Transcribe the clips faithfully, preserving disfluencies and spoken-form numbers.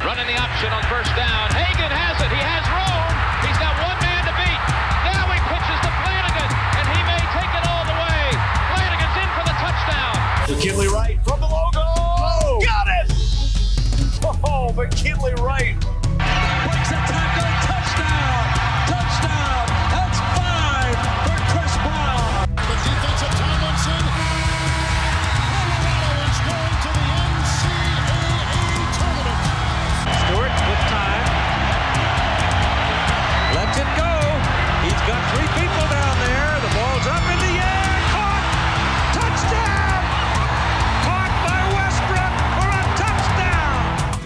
Running the option on first down. Hagan has it. He has room. He's got one man to beat. Now he pitches to Flanagan, and he may take it all the way. Flanagan's in for the touchdown. McKinley Wright from the logo. Oh, got it! Oh, McKinley Wright. Breaks a tackle. Touchdown. Touchdown. That's five for Chris Brown. The defensive Tomlinson. Colorado is going to the N C double A tournament. Stewart with time. Lets it go. He's got three people down there. The ball's up in the air. Caught. Touchdown. Caught by Westbrook for a touchdown.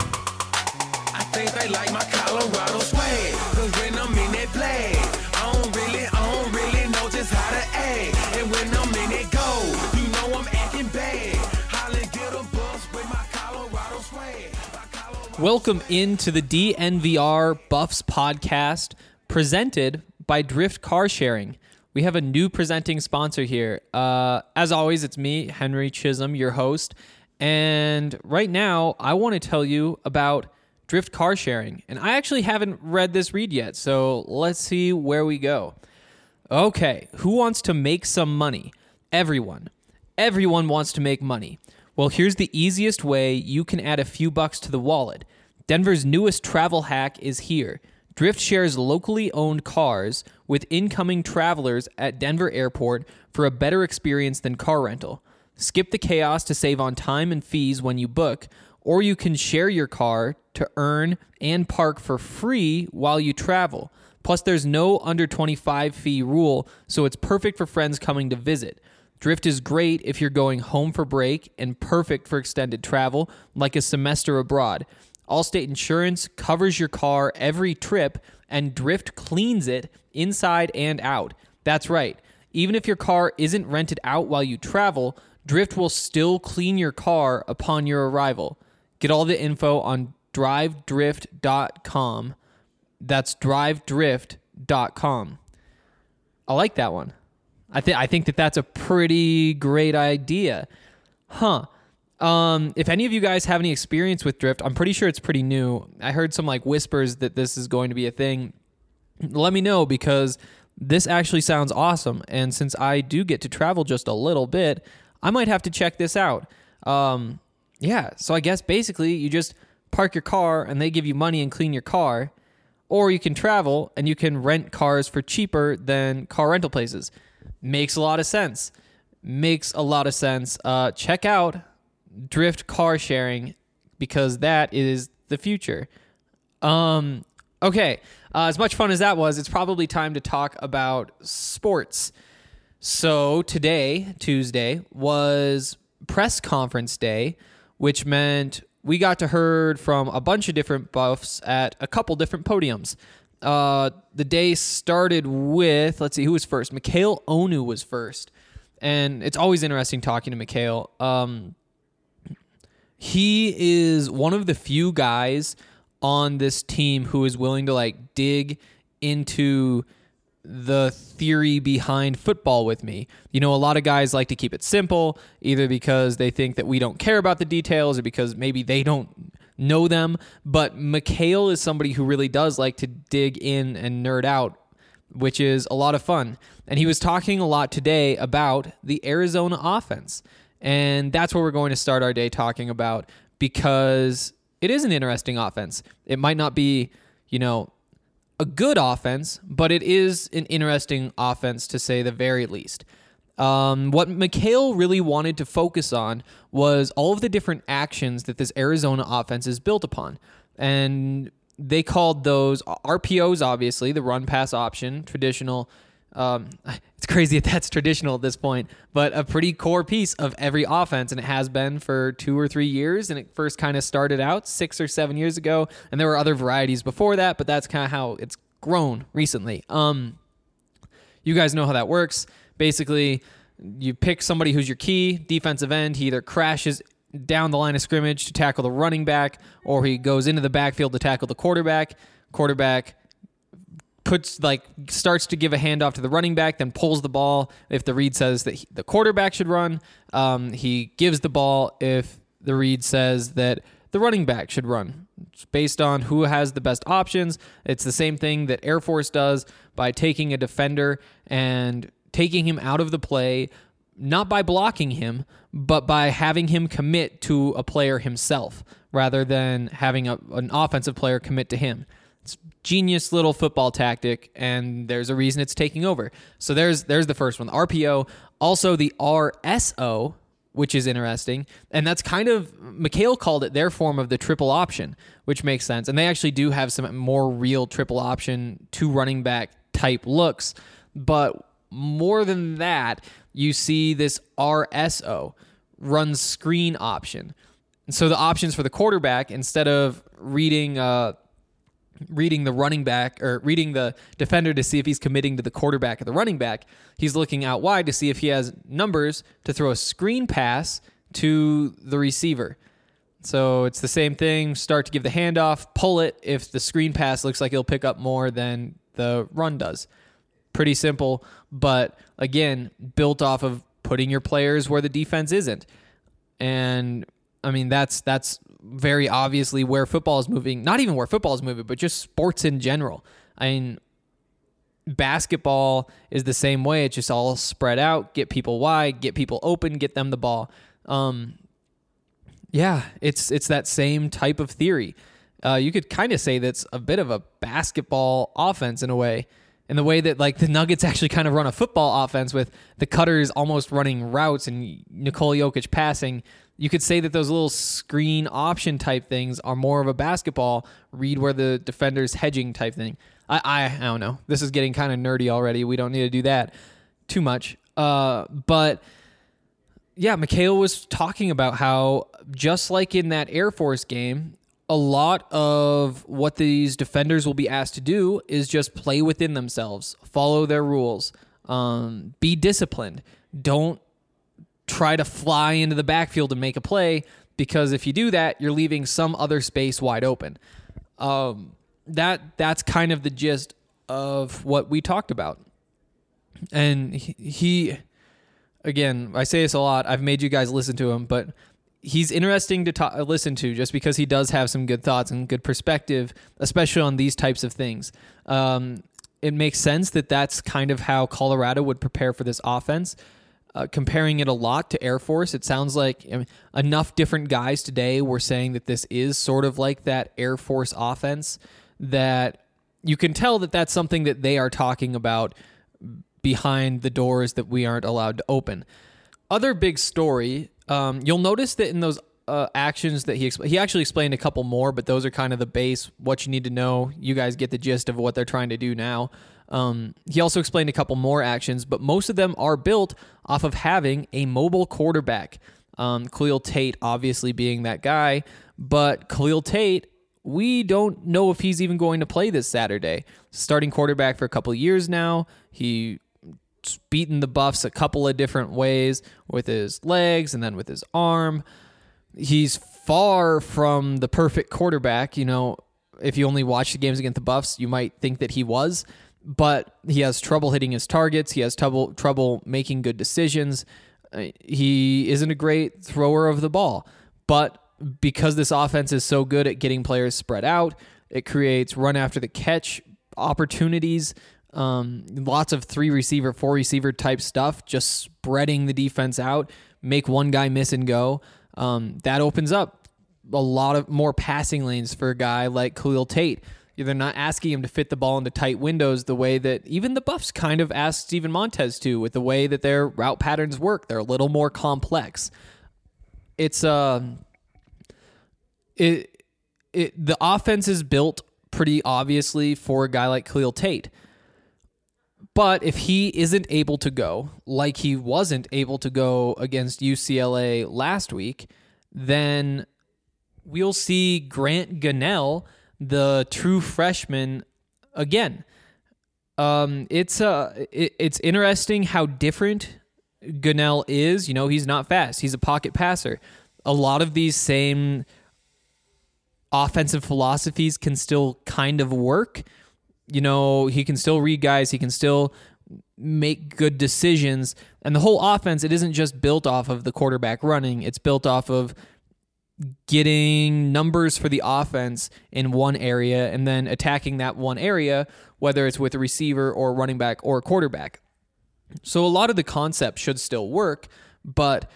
I think they like my Colorado swag. Cause when I'm in that play, I don't really, I don't really know just how to act. And when I'm in it go, you know I'm acting bad. Holland get a bus with my Colorado swag. My Colorado Welcome into the D N V R Buffs podcast, presented by Drift Car Sharing. We have a new presenting sponsor here. Uh, as always, it's me, Henry Chisholm, your host. And right now, I want to tell you about Drift Car Sharing. And I actually haven't read this read yet, so let's see where we go. Okay, who wants to make some money? Everyone. Everyone wants to make money. Well, here's the easiest way you can add a few bucks to the wallet. Denver's newest travel hack is here. Drift shares locally owned cars with incoming travelers at Denver Airport for a better experience than car rental. Skip the chaos to save on time and fees when you book, or you can share your car to earn and park for free while you travel. Plus, there's no under twenty-five fee rule, so it's perfect for friends coming to visit. Drift is great if you're going home for break and perfect for extended travel, like a semester abroad. Allstate Insurance covers your car every trip, and Drift cleans it inside and out. That's right. Even if your car isn't rented out while you travel, Drift will still clean your car upon your arrival. Get all the info on drive drift dot com. That's drive drift dot com. I like that one. I think I think that that's a pretty great idea. Huh. Um, if any of you guys have any experience with Drift, I'm pretty sure it's pretty new. I heard some like whispers that this is going to be a thing. Let me know, because this actually sounds awesome. And since I do get to travel just a little bit, I might have to check this out. Um, yeah, so I guess basically you just park your car and they give you money and clean your car. Or you can travel and you can rent cars for cheaper than car rental places. Makes a lot of sense. Makes a lot of sense. Uh, check out Drift Car Sharing, because that is the future. Um, okay, uh, as much fun as that was, it's probably time to talk about sports. So today, Tuesday, was press conference day, which meant we got to heard from a bunch of different Buffs at a couple different podiums. Uh, the day started with, let's see, who was first? Mikhail Onu was first. And it's always interesting talking to Mikhail. Um, he is one of the few guys on this team who is willing to like dig into the theory behind football with me. You know, a lot of guys like to keep it simple, either because they think that we don't care about the details or because maybe they don't know them. But Mikhail is somebody who really does like to dig in and nerd out, which is a lot of fun. And he was talking a lot today about the Arizona offense. And that's what we're going to start our day talking about, because it is an interesting offense. It might not be, you know, a good offense, but it is an interesting offense to say the very least. Um, what Mikhail really wanted to focus on was all of the different actions that this Arizona offense is built upon. And they called those R P Os, obviously, the run pass option, traditional. Um, it's crazy that that's traditional at this point, but a pretty core piece of every offense, and it has been for two or three years, and it first kind of started out six or seven years ago, and there were other varieties before that, but that's kind of how it's grown recently. Um, you guys know how that works. Basically, you pick somebody who's your key defensive end. He either crashes down the line of scrimmage to tackle the running back, or he goes into the backfield to tackle the quarterback. Quarterback puts like starts to give a handoff to the running back, then pulls the ball if the read says that he, the quarterback should run. Um, he gives the ball if the read says that the running back should run. It's based on who has the best options. It's the same thing that Air Force does by taking a defender and taking him out of the play, not by blocking him, but by having him commit to a player himself rather than having a, an offensive player commit to him. It's genius little football tactic, and there's a reason it's taking over. So there's there's the first one, the R P O. Also the R S O, which is interesting, and that's kind of, Mikhail called it their form of the triple option, which makes sense. And they actually do have some more real triple option, two running back type looks, but more than that, you see this R S O, run screen option. And so the options for the quarterback, instead of reading uh, reading the running back or reading the defender to see if he's committing to the quarterback or the running back, he's looking out wide to see if he has numbers to throw a screen pass to the receiver. So it's the same thing. Start to give the handoff, pull it if the screen pass looks like it'll pick up more than the run does. Pretty simple, but again, built off of putting your players where the defense isn't. And I mean, that's that's very obviously where football is moving. Not even where football is moving, but just sports in general. I mean, basketball is the same way. It's just all spread out, get people wide, get people open, get them the ball. Um, yeah, it's it's that same type of theory. Uh, you could kind of say that's a bit of a basketball offense in a way. In the way that like the Nuggets actually kind of run a football offense with the cutters almost running routes and Nikola Jokic passing. You could say that those little screen option type things are more of a basketball read where the defender's hedging type thing. I I, I don't know. This is getting kind of nerdy already. We don't need to do that too much. Uh, but yeah, Mikhail was talking about how just like in that Air Force game, a lot of what these defenders will be asked to do is just play within themselves, follow their rules, um, be disciplined. Don't try to fly into the backfield and make a play, because if you do that, you're leaving some other space wide open. Um, that that's kind of the gist of what we talked about. And he, he, again, I say this a lot. I've made you guys listen to him, but he's interesting to ta- listen to just because he does have some good thoughts and good perspective, especially on these types of things. Um, it makes sense that that's kind of how Colorado would prepare for this offense. Uh, comparing it a lot to Air Force, it sounds like I mean, enough different guys today were saying that this is sort of like that Air Force offense that you can tell that that's something that they are talking about behind the doors that we aren't allowed to open. Other big story, um, you'll notice that in those uh, actions that he expl- he actually explained a couple more, but those are kind of the base, what you need to know. You guys get the gist of what they're trying to do now. Um, he also explained a couple more actions, but most of them are built off of having a mobile quarterback. Um, Khalil Tate obviously being that guy, but Khalil Tate, we don't know if he's even going to play this Saturday. Starting quarterback for a couple of years now. He beaten the Buffs a couple of different ways with his legs and then with his arm. He's far from the perfect quarterback. You know, if you only watch the games against the Buffs, you might think that he was. But he has trouble hitting his targets. He has trouble trouble making good decisions. Uh, he isn't a great thrower of the ball. But because this offense is so good at getting players spread out, it creates run after the catch opportunities, um, lots of three receiver, four receiver type stuff, just spreading the defense out, make one guy miss and go. Um, that opens up a lot of more passing lanes for a guy like Khalil Tate. They're not asking him to fit the ball into tight windows the way that even the Buffs kind of asked Steven Montez to, with the way that their route patterns work. They're a little more complex. It's uh, it it the offense is built pretty obviously for a guy like Khalil Tate. But if he isn't able to go, like he wasn't able to go against U C L A last week, then we'll see Grant Gunnell, the true freshman, again. Um, it's uh, it, it's interesting how different Gunnell is. You know, he's not fast. He's a pocket passer. A lot of these same offensive philosophies can still kind of work. You know, he can still read guys. He can still make good decisions. And the whole offense, it isn't just built off of the quarterback running. It's built off of getting numbers for the offense in one area and then attacking that one area, whether it's with a receiver or running back or quarterback. So a lot of the concepts should still work, but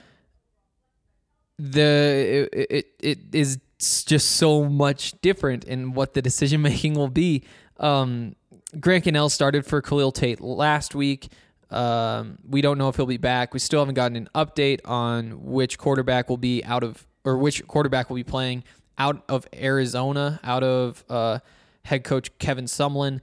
the it, it, it is just so much different in what the decision making will be. Um, Grant Gunnell started for Khalil Tate last week. Um, we don't know if he'll be back. We still haven't gotten an update on which quarterback will be out of, or which quarterback will be playing out of Arizona, out of uh, head coach Kevin Sumlin.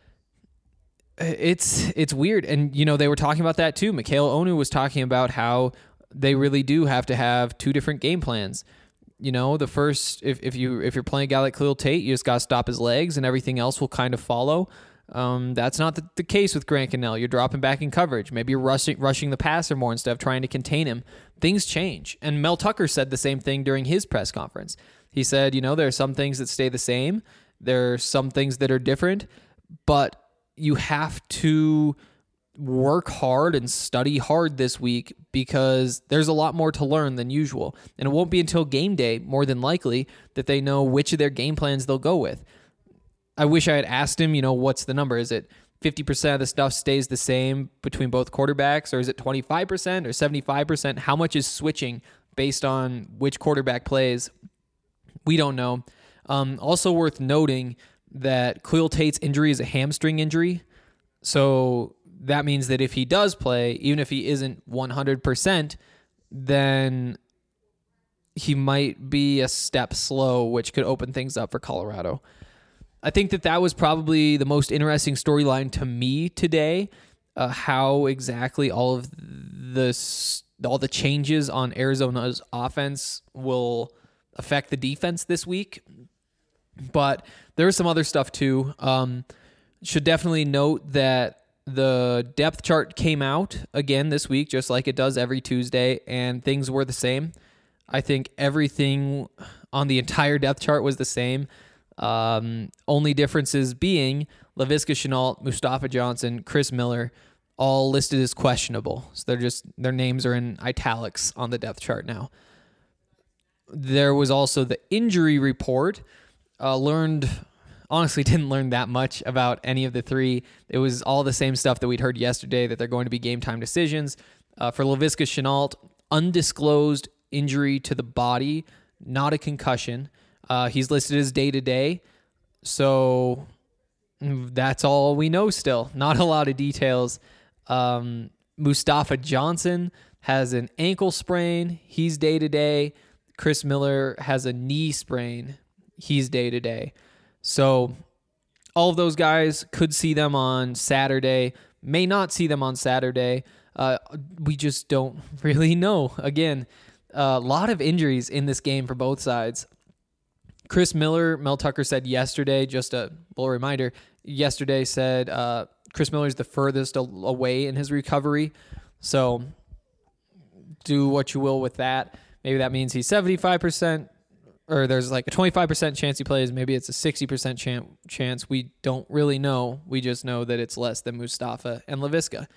It's it's weird, and you know they were talking about that too. Mikhail Onu was talking about how they really do have to have two different game plans. You know, the first, if, if you if you're playing a guy like Khalil Tate, you just got to stop his legs, and everything else will kind of follow. Um, that's not the, the case with Grant Gunnell. You're dropping back in coverage. Maybe you're rushing rushing the passer more instead of trying to contain him. Things change, and Mel Tucker said the same thing during his press conference. He said, you know, there are some things that stay the same. There are some things that are different, but you have to work hard and study hard this week because there's a lot more to learn than usual. And it won't be until game day, more than likely, that they know which of their game plans they'll go with. I wish I had asked him, you know, what's the number? Is it fifty percent of the stuff stays the same between both quarterbacks, or is it twenty-five percent or seventy-five percent? How much is switching based on which quarterback plays? We don't know. Um, also worth noting that Khalil Tate's injury is a hamstring injury. So that means that if he does play, even if he isn't one hundred percent, then he might be a step slow, which could open things up for Colorado. I think that that was probably the most interesting storyline to me today, uh, how exactly all of the, all the changes on Arizona's offense will affect the defense this week. But there's some other stuff too. Um, should definitely note that the depth chart came out again this week, just like it does every Tuesday, and things were the same. I think everything on the entire depth chart was the same. Um, only differences being Laviska Shenault, Mustafa Johnson, Chris Miller, all listed as questionable. So they're just, their names are in italics on the depth chart now. There was also the injury report. Uh, learned, honestly didn't learn that much about any of the three. It was all the same stuff that we'd heard yesterday, that they're going to be game time decisions. Uh, for Laviska Shenault, undisclosed injury to the body, not a concussion. Uh, he's listed as day-to-day, so that's all we know still. Not a lot of details. Um, Mustafa Johnson has an ankle sprain. He's day-to-day. Chris Miller has a knee sprain. He's day-to-day. So all of those guys could see them on Saturday, may not see them on Saturday. Uh, we just don't really know. Again, a lot of injuries in this game for both sides. Chris Miller, Mel Tucker said yesterday, just a little reminder, yesterday said uh, Chris Miller's the furthest away in his recovery. So do what you will with that. Maybe that means he's seventy-five percent, or there's like a twenty-five percent chance he plays. Maybe it's a sixty percent chan- chance. We don't really know. We just know that it's less than Mustafa and Laviska.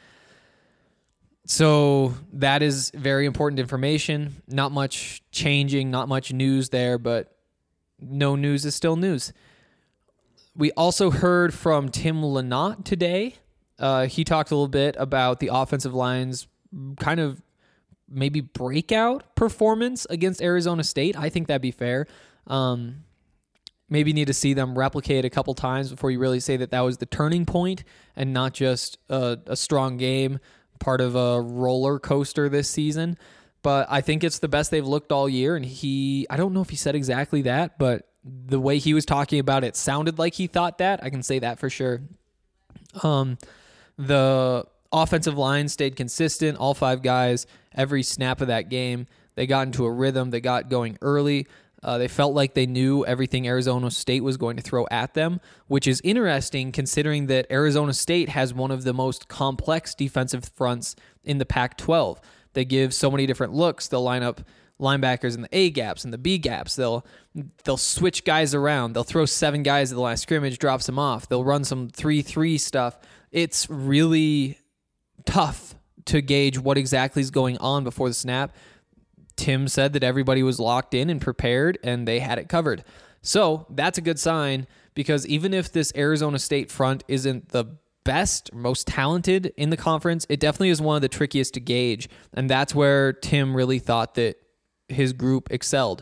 So that is very important information. Not much changing, not much news there, but no news is still news. We also heard from Tim Lynott today. Uh, he talked a little bit about the offensive line's kind of maybe breakout performance against Arizona State. I think that'd be fair. Um, maybe need to see them replicate a couple times before you really say that that was the turning point and not just a, a strong game, part of a roller coaster this season. But I think it's the best they've looked all year. And he, I don't know if he said exactly that, but the way he was talking about it sounded like he thought that. I can say that for sure. Um, the offensive line stayed consistent. All five guys, every snap of that game, they got into a rhythm. They got going early. Uh, they felt like they knew everything Arizona State was going to throw at them, which is interesting considering that Arizona State has one of the most complex defensive fronts in the Pac twelve. They give so many different looks. They'll line up linebackers in the A gaps and the B gaps. They'll they'll switch guys around. They'll throw seven guys at the line of scrimmage, drops them off. They'll run some three three stuff. It's really tough to gauge what exactly is going on before the snap. Tim said that everybody was locked in and prepared and they had it covered. So that's a good sign, because even if this Arizona State front isn't the best, most talented in the conference, it definitely is one of the trickiest to gauge. And that's where Tim really thought that his group excelled.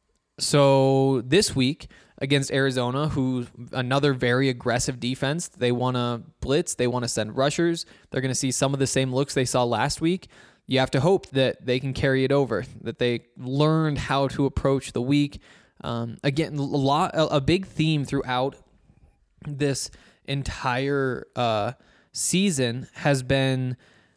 So this week against Arizona, who's another very aggressive defense, they want to blitz, they want to send rushers. They're going to see some of the same looks they saw last week. You have to hope that they can carry it over, that they learned how to approach the week. Um, again, a lot, a, a big theme throughout this entire uh, season has been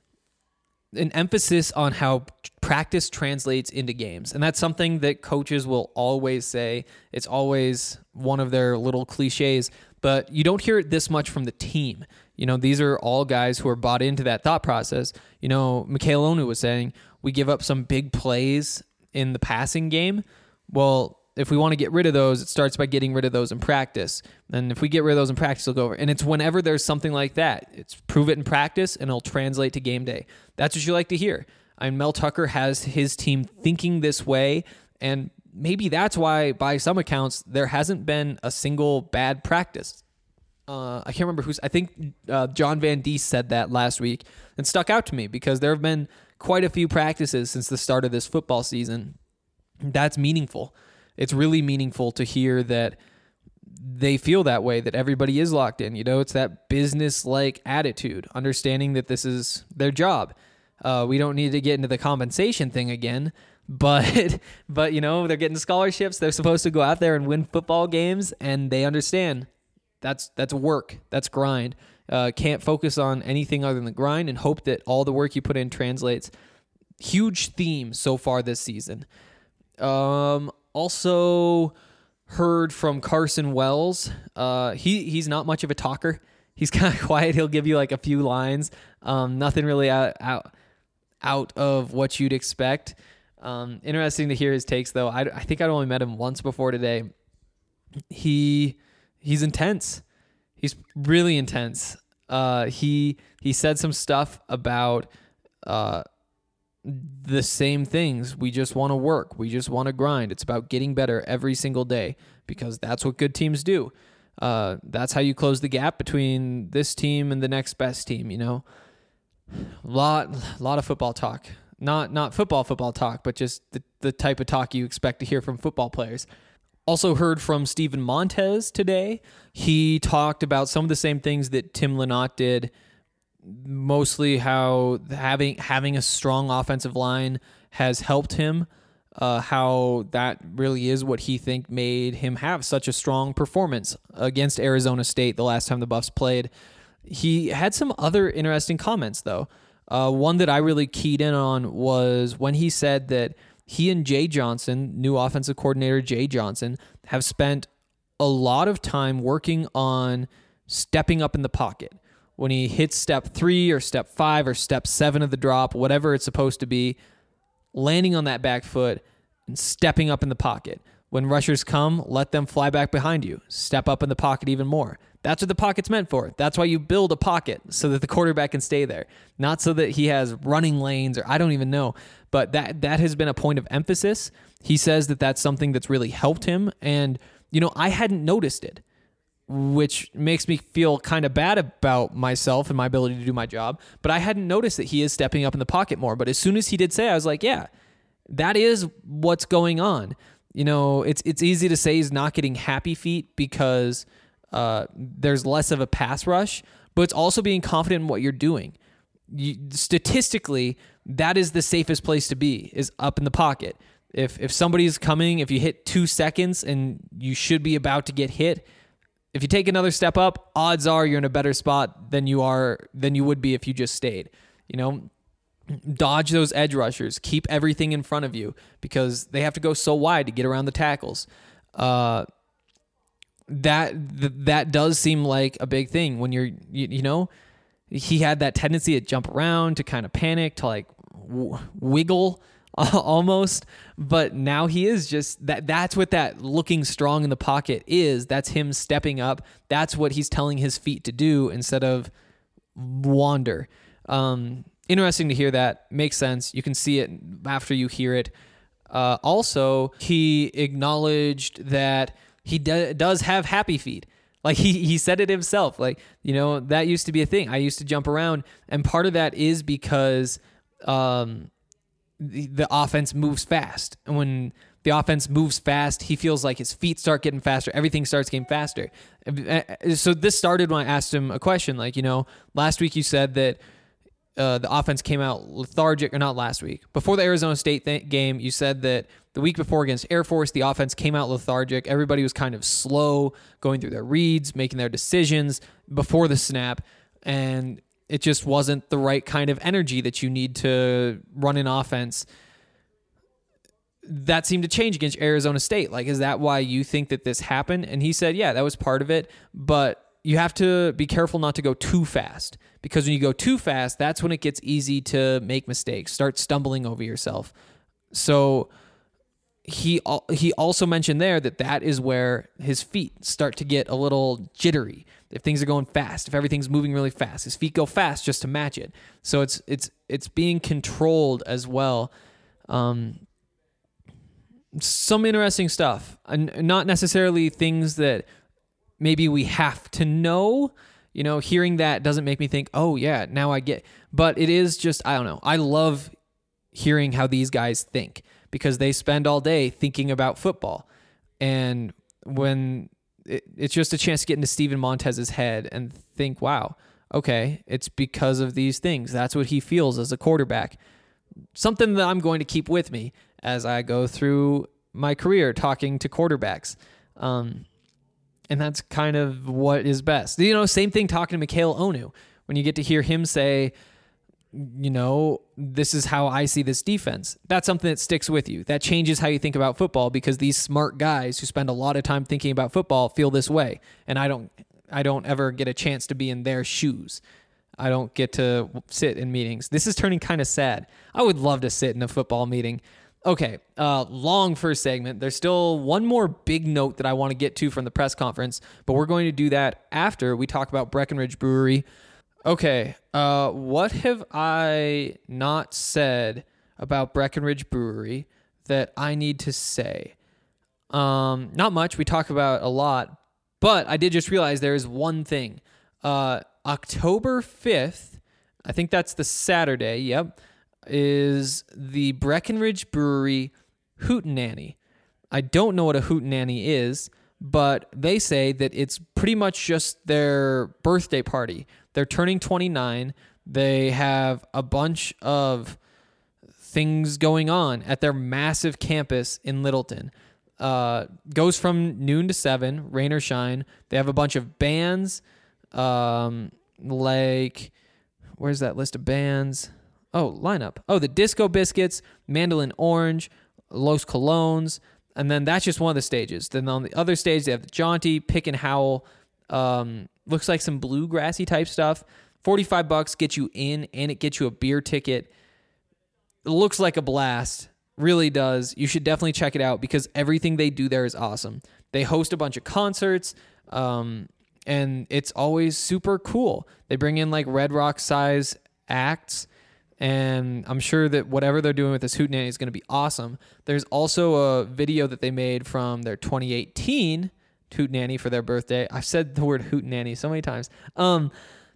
an emphasis on how practice translates into games. And that's something that coaches will always say. It's always one of their little cliches, but you don't hear it this much from the team. You know, these are all guys who are bought into that thought process. You know, Mikhail Onu was saying, we give up some big plays in the passing game. Well, if we want to get rid of those, it starts by getting rid of those in practice. And if we get rid of those in practice, it'll go over. And it's whenever there's something like that. It's prove it in practice, and it'll translate to game day. That's what you like to hear. I mean, Mel Tucker has his team thinking this way, and maybe that's why, by some accounts, there hasn't been a single bad practice. Uh, I can't remember who's. I think uh, John Van Diest said that last week, and stuck out to me because there have been quite a few practices since the start of this football season. That's meaningful. It's really meaningful to hear that they feel that way, that everybody is locked in. You know, it's that business-like attitude, understanding that this is their job. Uh, we don't need to get into the compensation thing again, but, but you know, they're getting scholarships. They're supposed to go out there and win football games, and they understand that's that's work. That's grind. Uh, can't focus on anything other than the grind and hope that all the work you put in translates. Huge theme so far this season. Um, also heard from Carson Wells. Uh, he he's not much of a talker. He's kind of quiet. He'll give you like a few lines. Um, nothing really out, out out of what you'd expect. Um, interesting to hear his takes though. I, I think I'd only met him once before today. He he's intense. He's really intense. Uh, he he said some stuff about uh. the same things. We just want to work. We just want to grind. It's about getting better every single day because that's what good teams do. Uh, that's how you close the gap between this team and the next best team, you know? Lot lot of football talk. Not not football football talk, but just the, the type of talk you expect to hear from football players. Also heard from Steven Montez today. He talked about some of the same things that Tim Lynott did, mostly how having having a strong offensive line has helped him, uh, how that really is what he think made him have such a strong performance against Arizona State the last time the Buffs played. He had some other interesting comments, though. Uh, one that I really keyed in on was when he said that he and Jay Johnson, new offensive coordinator Jay Johnson, have spent a lot of time working on stepping up in the pocket. When he hits step three or step five or step seven of the drop, whatever it's supposed to be, landing on that back foot and stepping up in the pocket. When rushers come, let them fly back behind you. Step up in the pocket even more. That's what the pocket's meant for. That's why you build a pocket, so that the quarterback can stay there. Not so that he has running lanes or I don't even know. But that that has been a point of emphasis. He says that that's something that's really helped him. And, you know, I hadn't noticed it, which makes me feel kind of bad about myself and my ability to do my job. But I hadn't noticed that he is stepping up in the pocket more. But as soon as he did say, I was like, yeah, that is what's going on. You know, it's it's easy to say he's not getting happy feet because uh, there's less of a pass rush, but it's also being confident in what you're doing. You, statistically, that is the safest place to be, is up in the pocket. If if somebody's coming, if you hit two seconds and you should be about to get hit, if you take another step up, odds are you're in a better spot than you are than you would be if you just stayed. You know, dodge those edge rushers. Keep everything in front of you because they have to go so wide to get around the tackles. Uh, that th- that does seem like a big thing when you're you, you know he had that tendency to jump around, to kind of panic, to like w- wiggle. Almost, but now he is just that. That's what that looking strong in the pocket is. That's him stepping up. That's what he's telling his feet to do instead of wander. Um, interesting to hear that. Makes sense. You can see it after you hear it. Uh, also, he acknowledged that he do- does have happy feet. Like he, he said it himself. Like, you know, that used to be a thing. I used to jump around. And part of that is because um, the, the offense moves fast. And when the offense moves fast, he feels like his feet start getting faster. Everything starts getting faster. So this started when I asked him a question. Like, you know, last week you said that Uh, the offense came out lethargic, or not last week. Before the Arizona State th- game, you said that the week before against Air Force, the offense came out lethargic. Everybody was kind of slow, going through their reads, making their decisions before the snap, and it just wasn't the right kind of energy that you need to run an offense. That seemed to change against Arizona State. Like, is that why you think that this happened? And he said, yeah, that was part of it, but you have to be careful not to go too fast, because when you go too fast, that's when it gets easy to make mistakes, start stumbling over yourself. So he he also mentioned there that that is where his feet start to get a little jittery. If things are going fast, if everything's moving really fast, his feet go fast just to match it. So it's it's it's being controlled as well. Um, some interesting stuff, and not necessarily things that maybe we have to know. You know, hearing that doesn't make me think, oh yeah, now I get, but it is just, I don't know. I love hearing how these guys think, because they spend all day thinking about football. And when it, it's just a chance to get into Steven Montez's head and think, wow, okay, it's because of these things. That's what he feels as a quarterback. Something that I'm going to keep with me as I go through my career talking to quarterbacks. Um, And that's kind of what is best. You know, same thing talking to Mikhail Onu. When you get to hear him say, you know, this is how I see this defense. That's something that sticks with you. That changes how you think about football, because these smart guys who spend a lot of time thinking about football feel this way. And I don't I don't ever get a chance to be in their shoes. I don't get to sit in meetings. This is turning kind of sad. I would love to sit in a football meeting. Okay, uh, long first segment. There's still one more big note that I want to get to from the press conference, but we're going to do that after we talk about Breckenridge Brewery. Okay, uh, what have I not said about Breckenridge Brewery that I need to say? Um, not much. We talk about a lot, but I did just realize there is one thing. Uh, October fifth, I think that's the Saturday, yep, is the Breckenridge Brewery Hootenanny. I don't know what a Hootenanny is, but they say that it's pretty much just their birthday party. They're turning twenty-nine. They have a bunch of things going on at their massive campus in Littleton. Uh, goes from noon to seven, rain or shine. They have a bunch of bands, um, like, where's that list of bands? Oh, lineup. Oh, the Disco Biscuits, Mandolin Orange, Los Colones, and then that's just one of the stages. Then on the other stage, they have the Jaunty, Pick and Howl, um, looks like some bluegrassy type stuff. forty-five bucks gets you in, and it gets you a beer ticket. It looks like a blast. Really does. You should definitely check it out, because everything they do there is awesome. They host a bunch of concerts, um, and it's always super cool. They bring in like Red Rock size acts, and I'm sure that whatever they're doing with this Hootenanny is going to be awesome. There's also a video that they made from their twenty eighteen Hootenanny for their birthday. I've said the word Hootenanny so many times. Um,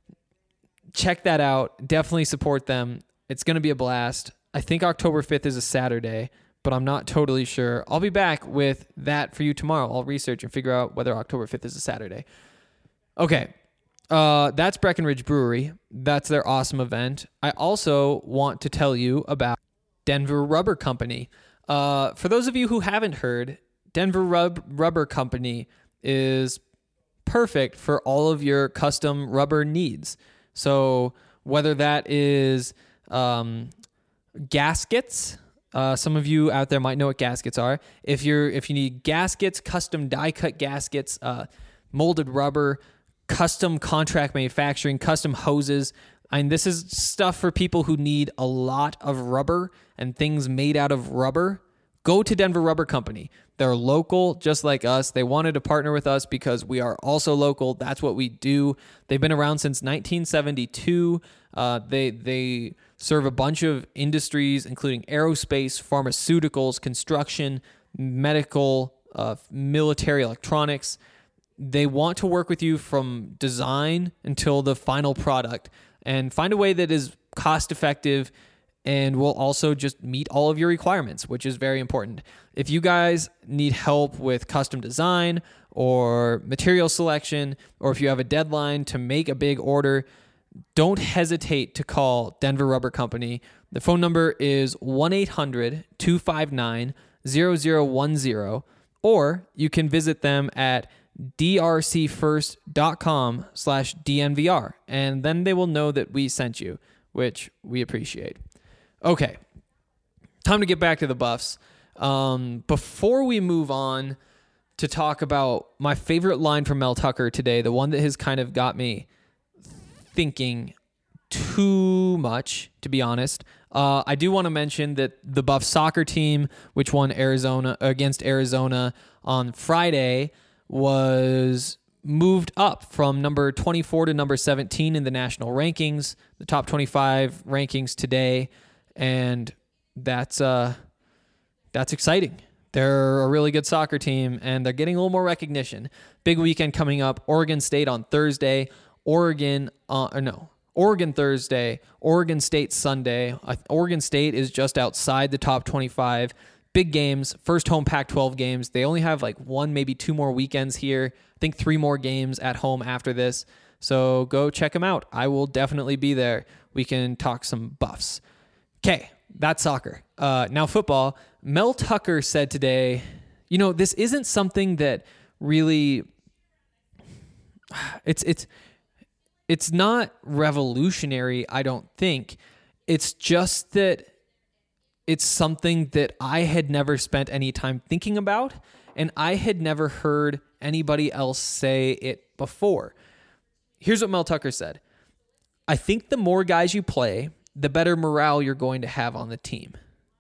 check that out. Definitely support them. It's going to be a blast. I think October fifth is a Saturday, but I'm not totally sure. I'll be back with that for you tomorrow. I'll research and figure out whether October fifth is a Saturday. Okay. Uh, that's Breckenridge Brewery. That's their awesome event. I also want to tell you about Denver Rubber Company. Uh, for those of you who haven't heard, Denver Rub- Rubber Company is perfect for all of your custom rubber needs. So whether that is um, gaskets, uh, some of you out there might know what gaskets are. If you're if you need gaskets, custom die cut gaskets, uh, molded rubber, custom contract manufacturing, custom hoses. I mean, this is stuff for people who need a lot of rubber and things made out of rubber. go to Denver Rubber Company. They're local, just like us. They wanted to partner with us because we are also local. That's what we do. They've been around since nineteen seventy-two. Uh, they they serve a bunch of industries, including aerospace, pharmaceuticals, construction, medical, uh, military electronics. They want to work with you from design until the final product and find a way that is cost effective and will also just meet all of your requirements, which is very important. If you guys need help with custom design or material selection, or if you have a deadline to make a big order, don't hesitate to call Denver Rubber Company. The phone number is one eight hundred two five nine zero zero one zero, or you can visit them at drcfirst.com slash DNVR, and then they will know that we sent you, which we appreciate. Okay, time to get back to the Buffs. Um, before we move on to talk about my favorite line from Mel Tucker today, the one that has kind of got me thinking too much, to be honest, uh, I do want to mention that the Buffs soccer team, which won Arizona against Arizona on Friday, was moved up from number twenty-four to number seventeen in the national rankings, the top twenty-five rankings today, and that's uh, that's exciting. They're a really good soccer team, and they're getting a little more recognition. Big weekend coming up. Oregon State on Thursday. Oregon, uh, or no, Oregon Thursday. Oregon State Sunday. Uh, Oregon State is just outside the top twenty-five. Big games, first home Pac twelve games. They only have like one, maybe two more weekends here. I think three more games at home after this. So go check them out. I will definitely be there. We can talk some Buffs. Okay, that's soccer. Uh, now football. Mel Tucker said today, you know, this isn't something that really, it's it's it's not revolutionary, I don't think. It's just that it's something that I had never spent any time thinking about, and I had never heard anybody else say it before. Here's what Mel Tucker said. I think the more guys you play, the better morale you're going to have on the team.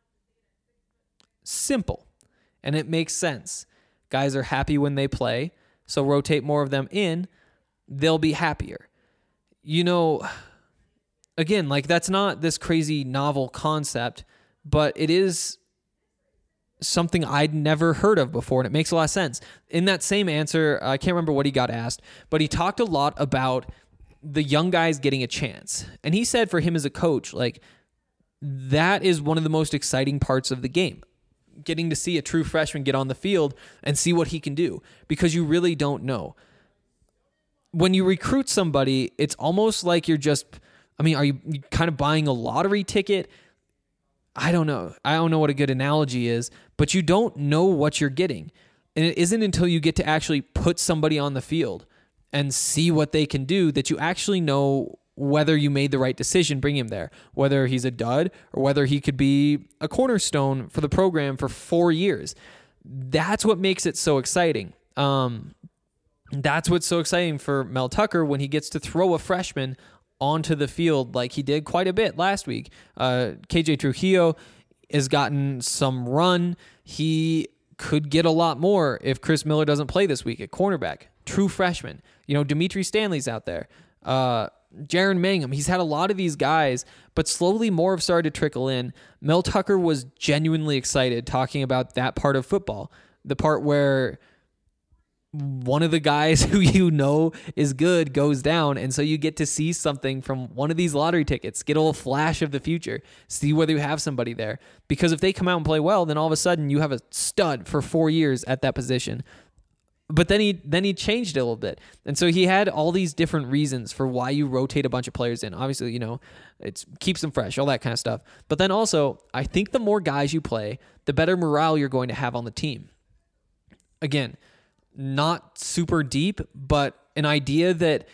Simple. And it makes sense. Guys are happy when they play, so rotate more of them in, they'll be happier. You know, again, like that's not this crazy novel concept, but it is something I'd never heard of before, and it makes a lot of sense. In that same answer, I can't remember what he got asked, but he talked a lot about the young guys getting a chance. And he said for him as a coach, like, that is one of the most exciting parts of the game. Getting to see a true freshman get on the field and see what he can do, because you really don't know. When you recruit somebody, it's almost like you're just, I mean, are you kind of buying a lottery ticket? I don't know. I don't know what a good analogy is, but you don't know what you're getting. And it isn't until you get to actually put somebody on the field and see what they can do that you actually know whether you made the right decision bringing him there, whether he's a dud or whether he could be a cornerstone for the program for four years. That's what makes it so exciting. Um, that's what's so exciting for Mel Tucker when he gets to throw a freshman onto the field like he did quite a bit last week. Uh, K J Trujillo has gotten some run. He could get a lot more if Chris Miller doesn't play this week at cornerback. True freshman. You know, Dimitri Stanley's out there. Uh, Jaron Mangum. He's had a lot of these guys, but slowly more have started to trickle in. Mel Tucker was genuinely excited talking about that part of football. The part where one of the guys who you know is good goes down, and so you get to see something from one of these lottery tickets, get a little flash of the future, see whether you have somebody there. Because if they come out and play well, then all of a sudden you have a stud for four years at that position. But then he then he changed it a little bit. And so he had all these different reasons for why you rotate a bunch of players in. Obviously, you know, it keeps them fresh, all that kind of stuff. But then also, I think the more guys you play, the better morale you're going to have on the team. Again, not super deep, but an idea that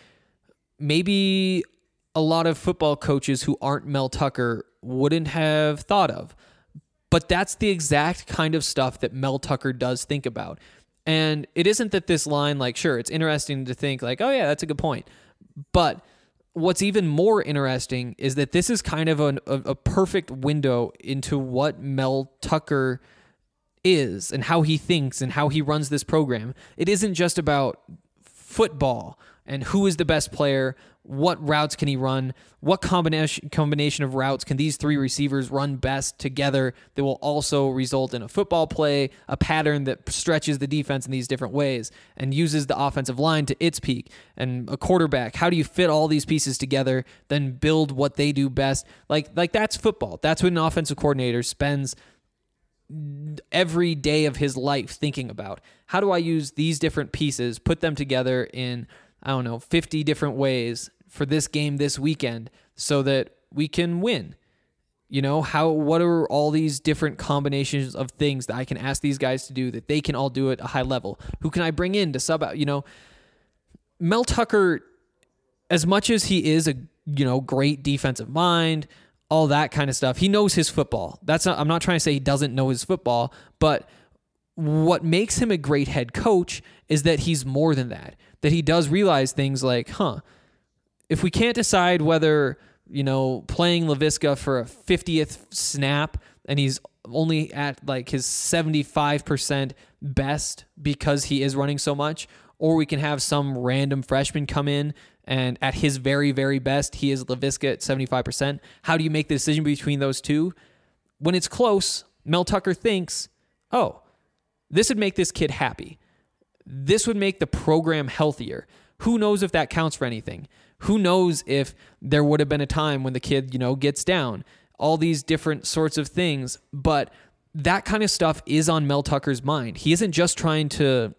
maybe a lot of football coaches who aren't Mel Tucker wouldn't have thought of. But that's the exact kind of stuff that Mel Tucker does think about. And it isn't that this line, like, sure, it's interesting to think like, oh yeah, that's a good point. But what's even more interesting is that this is kind of an, a, a perfect window into what Mel Tucker is and how he thinks and how he runs this program. It isn't just about football and who is the best player, what routes can he run, what combination combination of routes can these three receivers run best together that will also result in a football play, a pattern that stretches the defense in these different ways and uses the offensive line to its peak, and a quarterback. How do you fit all these pieces together, then build what they do best? Like, like that's football. That's what an offensive coordinator spends every day of his life thinking about. How do I use these different pieces, put them together in, I don't know, fifty different ways for this game this weekend so that we can win? You know, how, what are all these different combinations of things that I can ask these guys to do that they can all do at a high level? Who can I bring in to sub out? You know, Mel Tucker, as much as he is a, you know, great defensive mind, all that kind of stuff, he knows his football. That's not, I'm not trying to say he doesn't know his football, but what makes him a great head coach is that he's more than that. That he does realize things like, huh, if we can't decide whether, you know, playing Laviska for a fiftieth snap and he's only at like his seventy-five percent best because he is running so much, or we can have some random freshman come in and at his very, very best, he is Laviska at seventy-five percent. How do you make the decision between those two? When it's close, Mel Tucker thinks, oh, this would make this kid happy. This would make the program healthier. Who knows if that counts for anything? Who knows if there would have been a time when the kid, you know, gets down? All these different sorts of things. But that kind of stuff is on Mel Tucker's mind. He isn't just trying to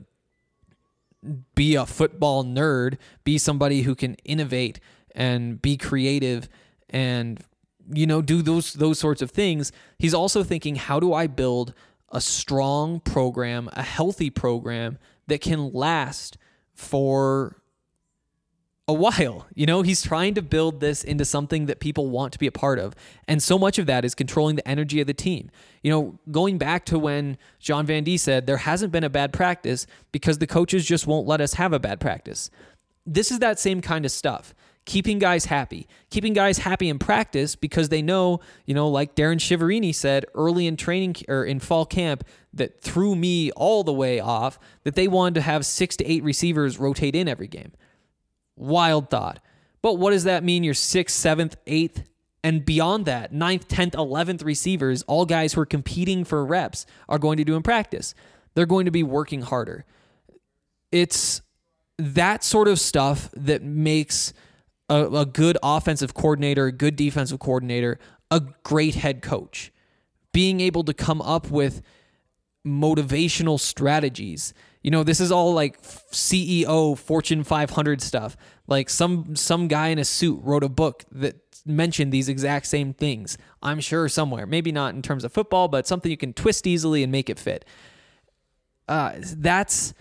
be a football nerd, be somebody who can innovate and be creative and, you know, do those those sorts of things. He's also thinking, how do I build a strong program, a healthy program that can last for a while? You know, he's trying to build this into something that people want to be a part of. And so much of that is controlling the energy of the team. You know, going back to when John Van Dee said there hasn't been a bad practice because the coaches just won't let us have a bad practice. This is that same kind of stuff. Keeping guys happy. Keeping guys happy in practice because they know, you know, like Darren Shiverini said early in training or in fall camp that threw me all the way off, that they wanted to have six to eight receivers rotate in every game. Wild thought. But what does that mean? Your sixth, seventh, eighth, and beyond that, ninth, tenth, eleventh receivers, all guys who are competing for reps, are going to do in practice. They're going to be working harder. It's that sort of stuff that makes a, a good offensive coordinator, a good defensive coordinator, a great head coach. Being able to come up with motivational strategies. You know, this is all like C E O, Fortune five hundred stuff. Like some some guy in a suit wrote a book that mentioned these exact same things. I'm sure somewhere. Maybe not in terms of football, but something you can twist easily and make it fit. Uh, that's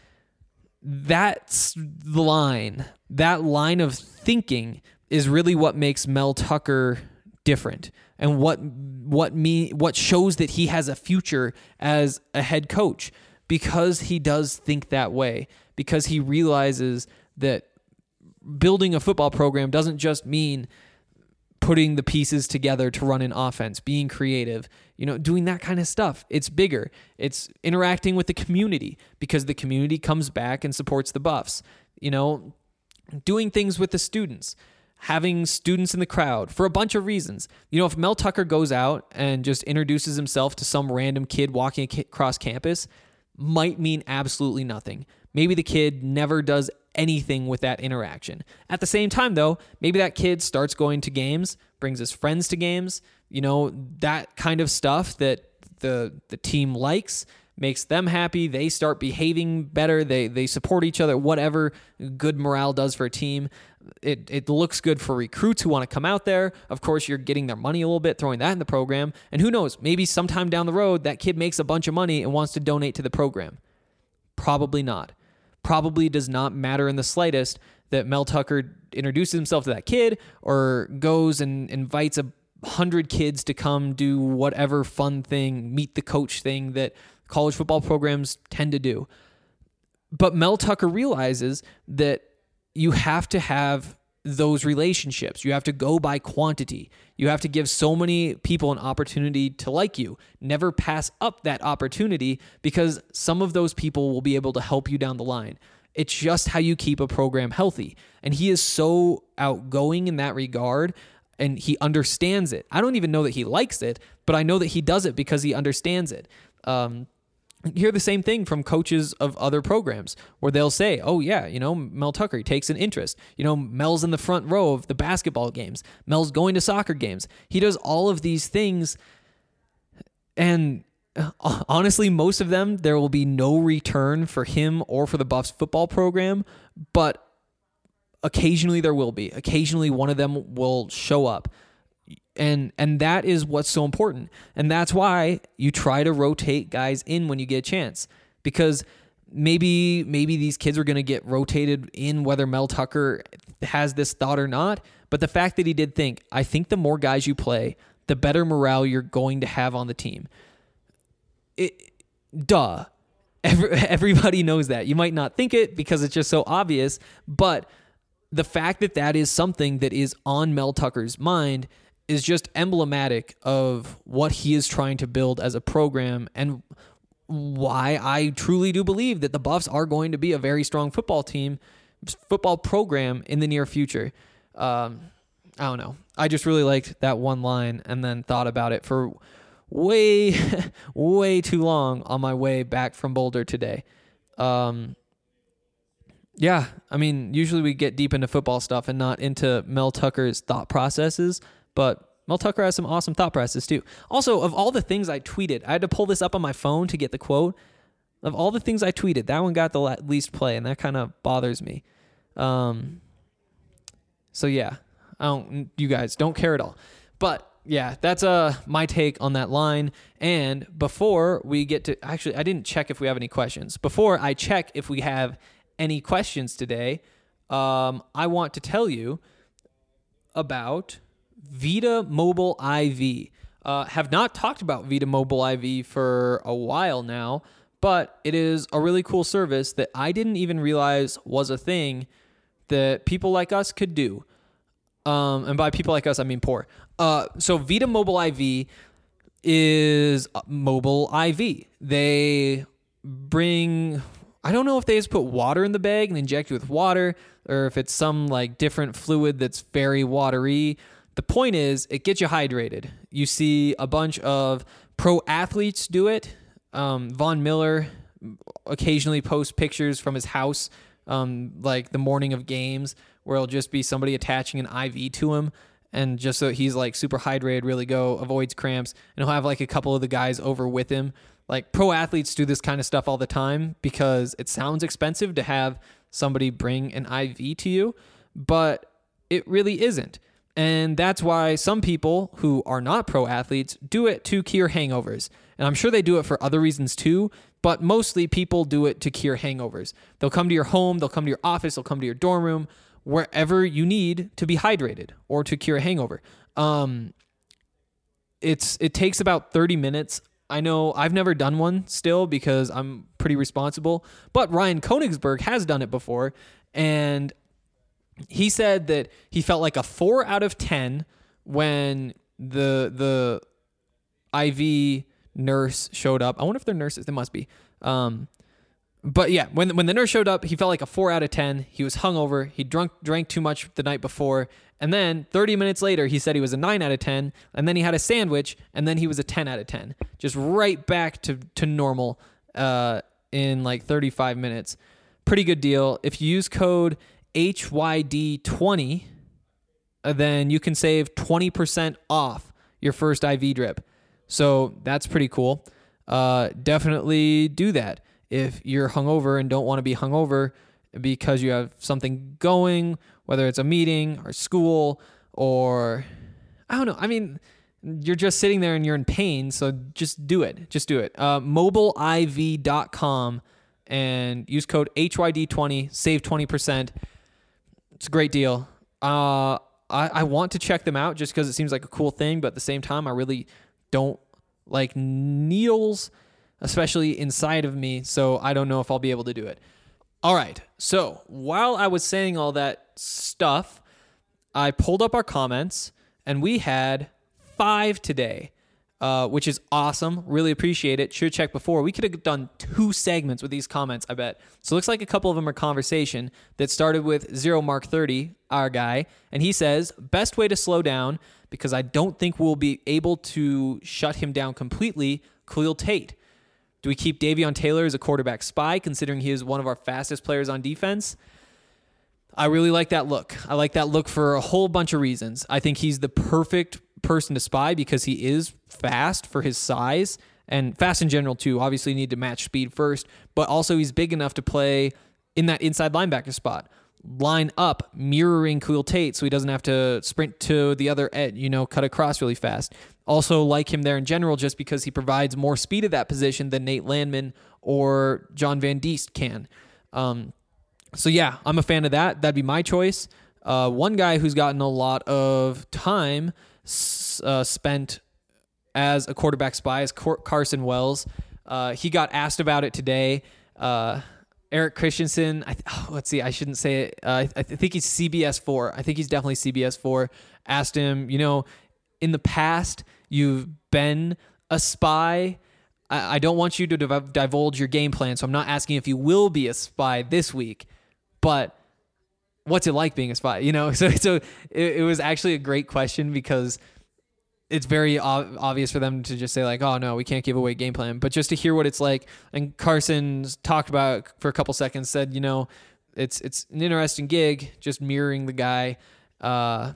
that's the line. That line of thinking is really what makes Mel Tucker different, and what what me what shows that he has a future as a head coach. Because he does think that way, because he realizes that building a football program doesn't just mean putting the pieces together to run an offense, being creative, you know, doing that kind of stuff. It's bigger. It's interacting with the community because the community comes back and supports the Buffs, you know, doing things with the students, having students in the crowd for a bunch of reasons. You know, if Mel Tucker goes out and just introduces himself to some random kid walking across campus, might mean absolutely nothing. Maybe the kid never does anything with that interaction. At the same time, though, maybe that kid starts going to games, brings his friends to games, you know, that kind of stuff that the the team likes, makes them happy. They start behaving better. They they support each other, whatever good morale does for a team. It it looks good for recruits who want to come out there. Of course, you're getting their money a little bit, throwing that in the program. And who knows, maybe sometime down the road, that kid makes a bunch of money and wants to donate to the program. Probably not. Probably does not matter in the slightest that Mel Tucker introduces himself to that kid or goes and invites a hundred kids to come do whatever fun thing, meet the coach thing that college football programs tend to do. But Mel Tucker realizes that you have to have those relationships. You have to go by quantity. You have to give so many people an opportunity to like you. Never pass up that opportunity, because some of those people will be able to help you down the line. It's just how you keep a program healthy. And he is so outgoing in that regard, and he understands it. I don't even know that he likes it, but I know that he does it because he understands it. Um, You hear the same thing from coaches of other programs where they'll say, oh, yeah, you know, Mel Tucker, he takes an interest. You know, Mel's in the front row of the basketball games. Mel's going to soccer games. He does all of these things. And honestly, most of them, there will be no return for him or for the Buffs football program. But occasionally there will be. Occasionally one of them will show up. And and that is what's so important. And that's why you try to rotate guys in when you get a chance. Because maybe maybe these kids are going to get rotated in whether Mel Tucker has this thought or not. But the fact that he did think, I think the more guys you play, the better morale you're going to have on the team. It, duh. Every, everybody knows that. You might not think it because it's just so obvious. But the fact that that is something that is on Mel Tucker's mind is just emblematic of what he is trying to build as a program, and why I truly do believe that the Buffs are going to be a very strong football team, football program in the near future. Um, I don't know. I just really liked that one line and then thought about it for way, way too long on my way back from Boulder today. Um, yeah, I mean, usually we get deep into football stuff and not into Mel Tucker's thought processes. But Mel Tucker has some awesome thought processes too. Also, of all the things I tweeted, I had to pull this up on my phone to get the quote. Of all the things I tweeted, that one got the least play, and that kind of bothers me. Um, so yeah, I don't. You guys don't care at all. But yeah, that's uh my take on that line. And before we get to, actually, I didn't check if we have any questions. Before I check if we have any questions today, um, I want to tell you about Vita Mobile I V. Uh, have not talked about Vita Mobile I V for a while now, but it is a really cool service that I didn't even realize was a thing that people like us could do. Um, and by people like us, I mean poor. Uh, so Vita Mobile I V is mobile I V. They bring, I don't know if they just put water in the bag and inject you with water, or if it's some like different fluid that's very watery. The point is, it gets you hydrated. You see a bunch of pro athletes do it. Um, Von Miller occasionally posts pictures from his house, um, like the morning of games, where it'll just be somebody attaching an I V to him, and just so he's like super hydrated, really go, avoids cramps, and he'll have like a couple of the guys over with him. Like pro athletes do this kind of stuff all the time because it sounds expensive to have somebody bring an I V to you, but it really isn't. And that's why some people who are not pro athletes do it to cure hangovers. And I'm sure they do it for other reasons too, but mostly people do it to cure hangovers. They'll come to your home, they'll come to your office, they'll come to your dorm room, wherever you need to be hydrated or to cure a hangover. Um, it's it takes about thirty minutes. I know I've never done one still because I'm pretty responsible, but Ryan Koenigsberg has done it before, and he said that he felt like a four out of ten when the the I V nurse showed up. I wonder if they're nurses. They must be. Um, but yeah, when when the nurse showed up, he felt like a four out of ten. He was hungover. He drunk drank too much the night before, and then thirty minutes later, he said he was a nine out of ten. And then he had a sandwich, and then he was a ten out of ten. Just right back to to normal uh, in like thirty-five minutes. Pretty good deal. If you use code H Y D twenty, then you can save twenty percent off your first I V drip. So that's pretty cool. Uh, definitely do that. If you're hungover and don't want to be hungover because you have something going, whether it's a meeting or school or, I don't know. I mean, you're just sitting there and you're in pain. So just do it. Just do it. Uh, mobile I V dot com and use code H Y D twenty, save twenty percent. It's a great deal. Uh, I, I want to check them out just because it seems like a cool thing, but at the same time, I really don't like needles, especially inside of me, so I don't know if I'll be able to do it. All right, so while I was saying all that stuff, I pulled up our comments, and we had five today, uh, which is awesome. Really appreciate it. Should have checked before. We could have done two segments with these comments, I bet. So it looks like a couple of them are conversation that started with Zero Mark thirty, our guy, and he says, best way to slow down, because I don't think we'll be able to shut him down completely, Khalil Tate. Do we keep Davion Taylor as a quarterback spy, considering he is one of our fastest players on defense? I really like that look. I like that look for a whole bunch of reasons. I think he's the perfect person to spy because he is fast for his size, and fast in general too. Obviously you need to match speed first, but also he's big enough to play in that inside linebacker spot. Line up, mirroring Khalil Tate so he doesn't have to sprint to the other edge, you know, cut across really fast. Also like him there in general just because he provides more speed at that position than Nate Landman or John Van Diest can. Um, so yeah, I'm a fan of that. That'd be my choice. Uh, one guy who's gotten a lot of time uh, spent as a quarterback spy is Carson Wells. Uh, he got asked about it today. Uh, Eric Christensen, I th- oh, let's see, I shouldn't say it. Uh, I, th- I think he's C B S four. I think he's definitely C B S four. Asked him, you know, in the past, you've been a spy. I, I don't want you to div- divulge your game plan, so I'm not asking if you will be a spy this week, but what's it like being a spy? You know, so so it, it was actually a great question because it's very ob- obvious for them to just say like, oh no, we can't give away game plan, but just to hear what it's like. And Carson's talked about it for a couple seconds, said, you know, it's, it's an interesting gig, just mirroring the guy. Uh,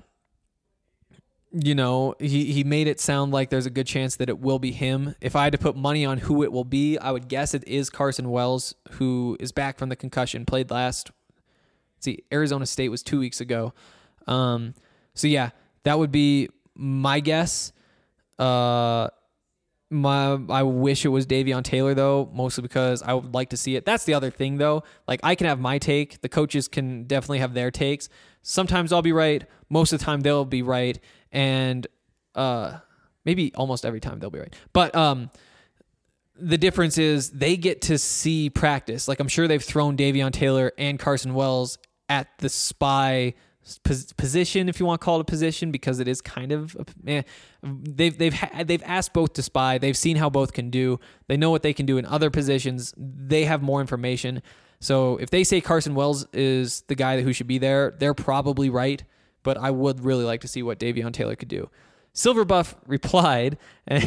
you know, he, he made it sound like there's a good chance that it will be him. If I had to put money on who it will be, I would guess it is Carson Wells, who is back from the concussion, played last, let's see, Arizona State was two weeks ago. Um, so yeah, that would be my guess. Uh, my I wish it was Davion Taylor though, mostly because I would like to see it. That's the other thing though. Like I can have my take. The coaches can definitely have their takes. Sometimes I'll be right. Most of the time they'll be right, and uh, maybe almost every time they'll be right. But um, the difference is they get to see practice. Like I'm sure they've thrown Davion Taylor and Carson Wells at the spy position, if you want to call it a position, because it is kind of eh, they've they've ha- they've asked both to spy. They've seen how both can do. They know what they can do in other positions. They have more information. So if they say Carson Wells is the guy who should be there, they're probably right. But I would really like to see what Davion Taylor could do. Silverbuff replied,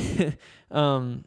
um,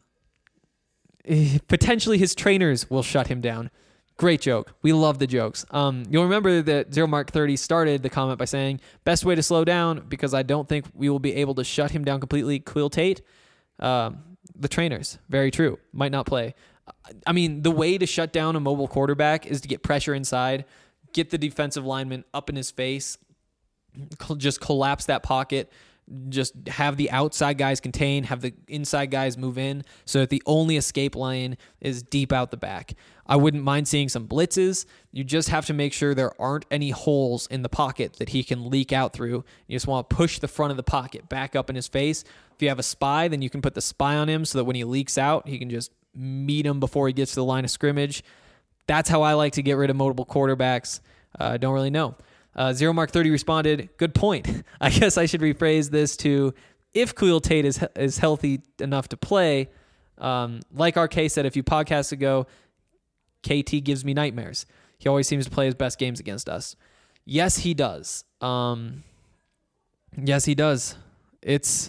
potentially his trainers will shut him down. Great joke. We love the jokes. Um, you'll remember that Zero Mark thirty started the comment by saying, best way to slow down, because I don't think we will be able to shut him down completely, Khalil Tate. Um, the trainers. Very true. Might not play. I mean, the way to shut down a mobile quarterback is to get pressure inside, get the defensive lineman up in his face, just collapse that pocket, just have the outside guys contain, have the inside guys move in so that the only escape lane is deep out the back. I wouldn't mind seeing some blitzes. You just have to make sure there aren't any holes in the pocket that he can leak out through. You just want to push the front of the pocket back up in his face. If you have a spy, then you can put the spy on him so that when he leaks out, he can just meet him before he gets to the line of scrimmage. That's how I like to get rid of mobile quarterbacks. I uh, don't really know. Uh, Zero Mark thirty responded, good point. I guess I should rephrase this to, if Khalil Tate is is healthy enough to play, um, like R K said a few podcasts ago, K T gives me nightmares. He always seems to play his best games against us. Yes, he does. Um, yes, he does. It's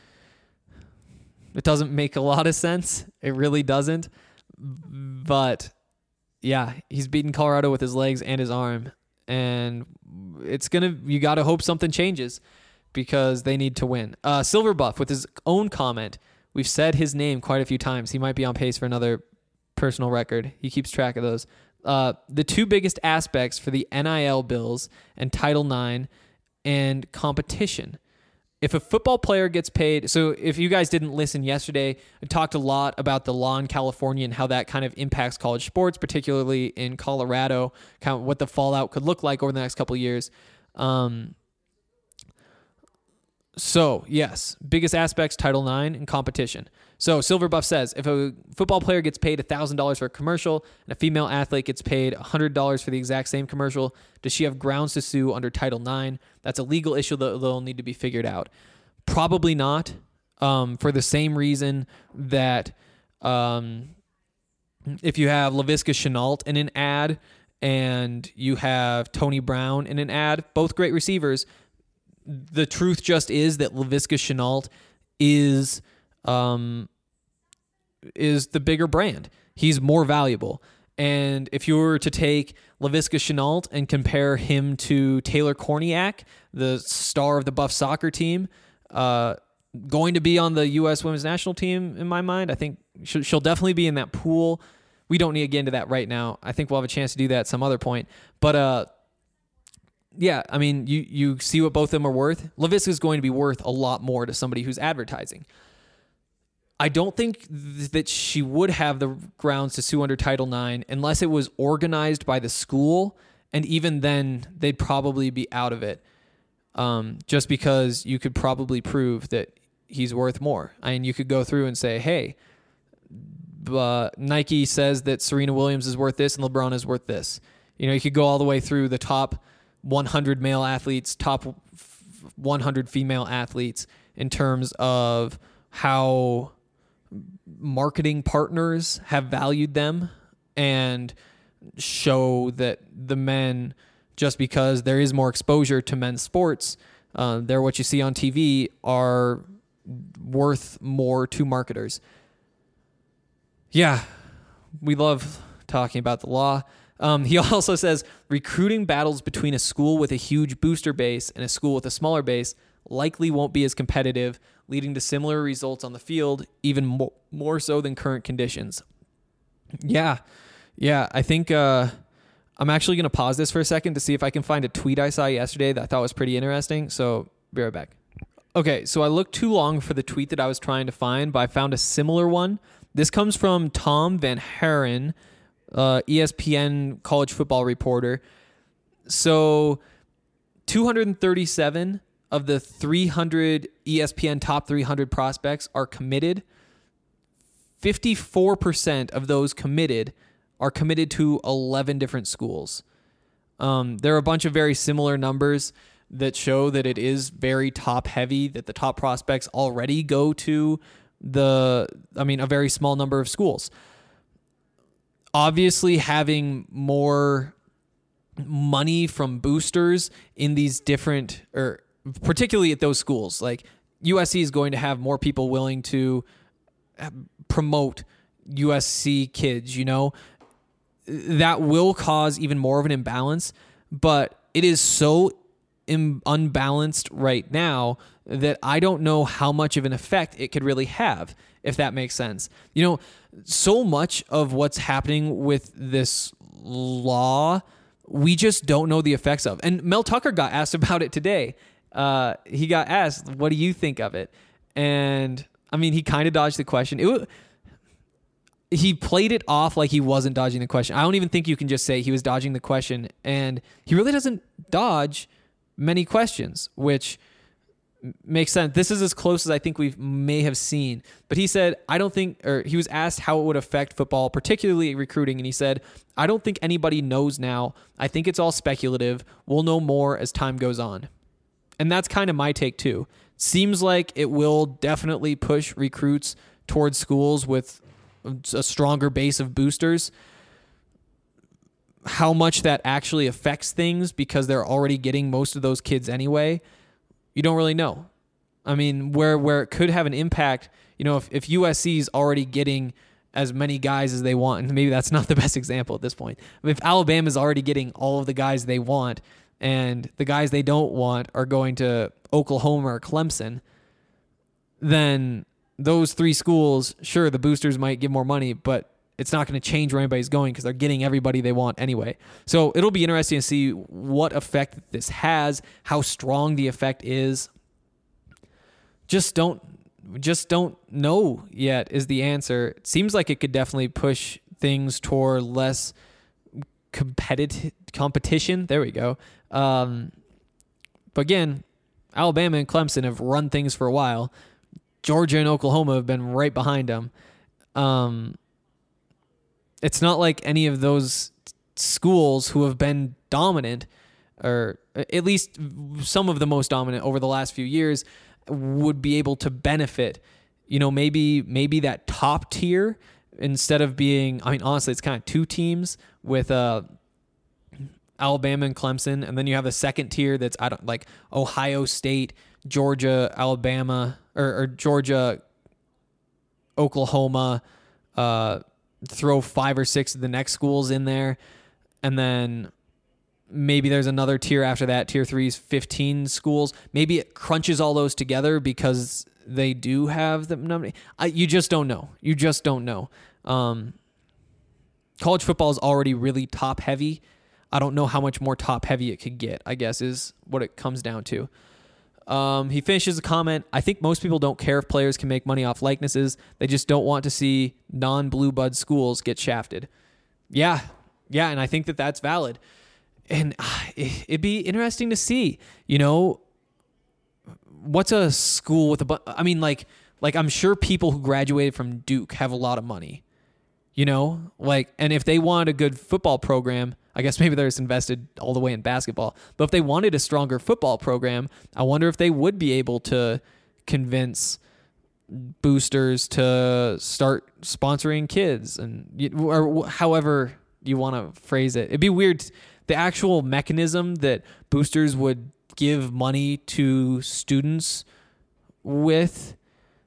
it doesn't make a lot of sense. It really doesn't. But yeah, he's beaten Colorado with his legs and his arm. And it's going to, you got to hope something changes because they need to win. Uh, Silverbuff with his own comment. We've said his name quite a few times. He might be on pace for another personal record. He keeps track of those. Uh, the two biggest aspects for the N I L bills and Title nine and competition. If a football player gets paid, so if you guys didn't listen yesterday, I talked a lot about the law in California and how that kind of impacts college sports, particularly in Colorado, kind of what the fallout could look like over the next couple of years. Um, So, yes, biggest aspects, Title nine and competition. So, Silver Buff says, if a football player gets paid one thousand dollars for a commercial and a female athlete gets paid one hundred dollars for the exact same commercial, does she have grounds to sue under Title nine? That's a legal issue that will need to be figured out. Probably not, um, for the same reason that um, if you have Laviska Shenault in an ad and you have Tony Brown in an ad, both great receivers, the truth just is that Laviska Shenault is um, is the bigger brand. He's more valuable. And if you were to take Laviska Shenault and compare him to Taylor Korniak, the star of the Buff soccer team, uh, going to be on the U S women's national team, in my mind, I think she'll, she'll definitely be in that pool. We don't need to get into that right now. I think we'll have a chance to do that at some other point. But uh, yeah, I mean, you you see what both of them are worth. Laviska is going to be worth a lot more to somebody who's advertising. I don't think th- that she would have the grounds to sue under Title nine unless it was organized by the school, and even then, they'd probably be out of it, um, just because you could probably prove that he's worth more. I mean, you could go through and say, hey, uh, Nike says that Serena Williams is worth this and LeBron is worth this. You know, you could go all the way through the top one hundred male athletes, top one hundred female athletes in terms of how marketing partners have valued them, and show that the men, just because there is more exposure to men's sports, uh, they're what you see on T V, are worth more to marketers. Yeah, we love talking about the law. Um, he also says recruiting battles between a school with a huge booster base and a school with a smaller base likely won't be as competitive, leading to similar results on the field, even more, more so than current conditions. Yeah, yeah, I think uh, I'm actually going to pause this for a second to see if I can find a tweet I saw yesterday that I thought was pretty interesting, so be right back. Okay, so I looked too long for the tweet that I was trying to find, but I found a similar one. This comes from Tom Van Haren, uh, E S P N college football reporter. So two hundred thirty-seven of the three hundred E S P N top three hundred prospects are committed. fifty-four percent of those committed are committed to eleven different schools. Um, there are a bunch of very similar numbers that show that it is very top heavy, that the top prospects already go to the, I mean, a very small number of schools. Obviously, having more money from boosters in these different, or particularly at those schools, like U S C is going to have more people willing to promote U S C kids, you know, that will cause even more of an imbalance, but it is so im- unbalanced right now that I don't know how much of an effect it could really have, if that makes sense. You know, so much of what's happening with this law, we just don't know the effects of. And Mel Tucker got asked about it today. Uh, he got asked, what do you think of it? And I mean, he kind of dodged the question. It, he played it off like he wasn't dodging the question. I don't even think you can just say he was dodging the question. And he really doesn't dodge many questions, which makes sense. This is as close as I think we may have seen. But he said, I don't think, or he was asked how it would affect football, particularly recruiting. And he said, I don't think anybody knows now. I think it's all speculative. We'll know more as time goes on. And that's kind of my take too. Seems like it will definitely push recruits towards schools with a stronger base of boosters. How much that actually affects things, because they're already getting most of those kids anyway, you don't really know. I mean, where where it could have an impact, you know, if, if U S C is already getting as many guys as they want, and maybe that's not the best example at this point. If Alabama is already getting all of the guys they want, and the guys they don't want are going to Oklahoma or Clemson, then those three schools, sure, the boosters might give more money, but it's not going to change where anybody's going because they're getting everybody they want anyway. So it'll be interesting to see what effect this has, how strong the effect is. Just don't, just don't know yet is the answer. It seems like it could definitely push things toward less competitive competition. There we go. Um, but again, Alabama and Clemson have run things for a while. Georgia and Oklahoma have been right behind them. Um, it's not like any of those schools who have been dominant, or at least some of the most dominant over the last few years, would be able to benefit. You know, maybe maybe that top tier, instead of being, I mean, honestly, it's kind of two teams with uh, Alabama and Clemson, and then you have a second tier that's I don't like Ohio State, Georgia, Alabama, or, or Georgia, Oklahoma. Uh, throw five or six of the next schools in there, and then maybe there's another tier after that. Tier three is fifteen schools. Maybe it crunches all those together because they do have the number. I, you just don't know. You just don't know. Um, college football is already really top heavy. I don't know how much more top heavy it could get, I guess, is what it comes down to. Um, he finishes the comment, I think most people don't care if players can make money off likenesses. They just don't want to see non-blue bud schools get shafted. Yeah, yeah, and I think that that's valid. And uh, it'd be interesting to see, you know, what's a school with a bu- I mean, like, like I'm sure people who graduated from Duke have a lot of money, you know, like, and if they want a good football program, I guess maybe they're just invested all the way in basketball. But if they wanted a stronger football program, I wonder if they would be able to convince boosters to start sponsoring kids, and or however you want to phrase it. It'd be weird. The actual mechanism that boosters would give money to students with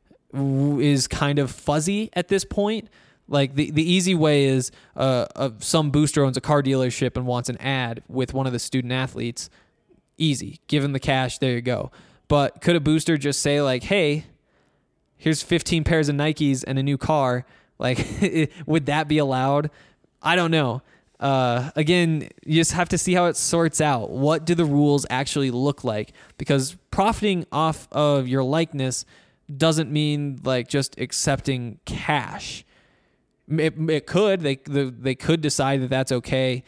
is kind of fuzzy at this point. Like the, the easy way is uh, uh, some booster owns a car dealership and wants an ad with one of the student athletes. Easy. Give them the cash. There you go. But could a booster just say like, hey, here's fifteen pairs of Nikes and a new car? Like, would that be allowed? I don't know. Uh, again, you just have to see how it sorts out. What do the rules actually look like? Because profiting off of your likeness doesn't mean like just accepting cash. It, it could. They the, they could decide that that's okay.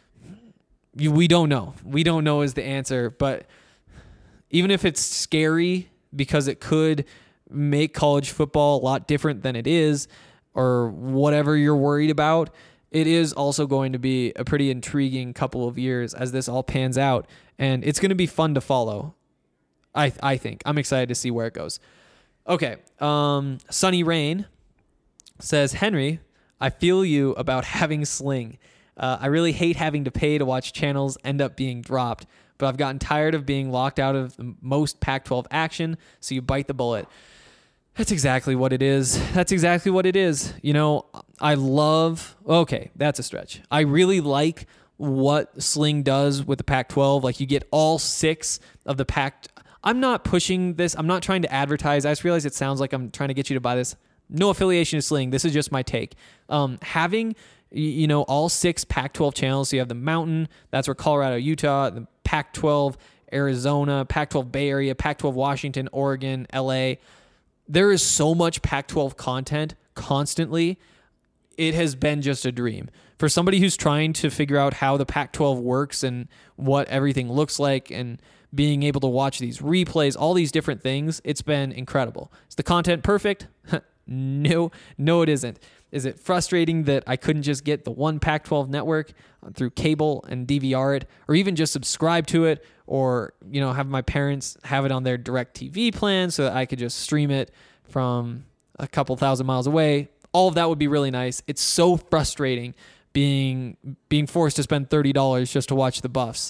You, we don't know. We don't know is the answer. But even if it's scary because it could make college football a lot different than it is, or whatever you're worried about, it is also going to be a pretty intriguing couple of years as this all pans out. And it's going to be fun to follow. I I think. I'm excited to see where it goes. Okay. Um, Sunny Rain says, Henry, I feel you about having Sling. Uh, I really hate having to pay to watch channels end up being dropped, but I've gotten tired of being locked out of the most Pac twelve action, so you bite the bullet. That's exactly what it is. That's exactly what it is. You know, I love... Okay, that's a stretch. I really like what Sling does with the Pac twelve. Like, you get all six of the Pac... I'm not pushing this. I'm not trying to advertise. I just realize it sounds like I'm trying to get you to buy this. No affiliation to Sling. This is just my take. Um, having, you know, all six Pac twelve channels. So you have the Mountain. That's where Colorado, Utah, the Pac twelve, Arizona, Pac twelve Bay Area, Pac twelve Washington, Oregon, L A. There is so much Pac twelve content constantly. It has been just a dream. For somebody who's trying to figure out how the Pac twelve works and what everything looks like and being able to watch these replays, all these different things, it's been incredible. Is the content perfect? No, no, it isn't. Is it frustrating that I couldn't just get the one Pac twelve network through cable and D V R it, or even just subscribe to it, or, you know, have my parents have it on their DirecTV plan so that I could just stream it from a couple thousand miles away? All of that would be really nice. It's so frustrating being being forced to spend thirty dollars just to watch the Buffs.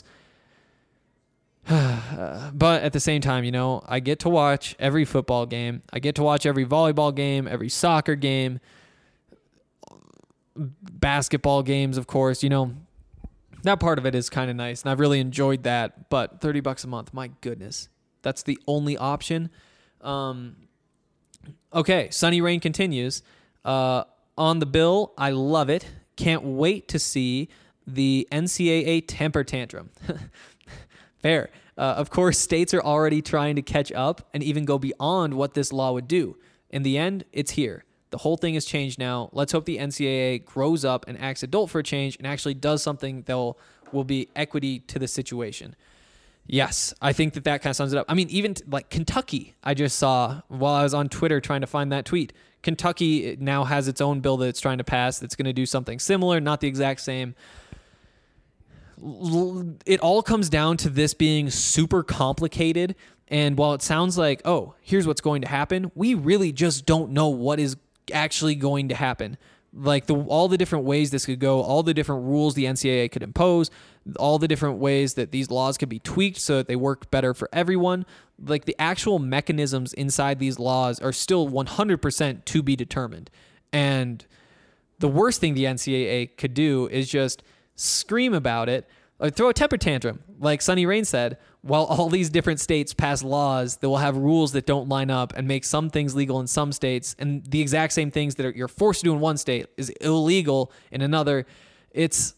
But at the same time, you know, I get to watch every football game. I get to watch every volleyball game, every soccer game, basketball games, of course. You know, that part of it is kind of nice, and I've really enjoyed that. But thirty bucks a month, my goodness, that's the only option. Um, okay, Sunny Rain continues. Uh, on the bill, I love it. Can't wait to see the N C double A temper tantrum. Fair. Uh, of course, states are already trying to catch up and even go beyond what this law would do. In the end, it's here. The whole thing has changed now. Let's hope the N C double A grows up and acts adult for a change and actually does something that will, will be equity to the situation. Yes, I think that that kind of sums it up. I mean, even t- like Kentucky, I just saw while I was on Twitter trying to find that tweet. Kentucky now has its own bill that it's trying to pass that's going to do something similar, not the exact same. L- It all comes down to this being super complicated. And while it sounds like, oh, here's what's going to happen, we really just don't know what is actually going to happen. Like the all the different ways this could go, all the different rules the N C double A could impose, all the different ways that these laws could be tweaked so that they work better for everyone. Like the actual mechanisms inside these laws are still one hundred percent to be determined. And the worst thing the N C double A could do is just scream about it, or throw a temper tantrum, like Sonny Rain said, while all these different states pass laws that will have rules that don't line up and make some things legal in some states, and the exact same things that are, you're forced to do in one state is illegal in another. It's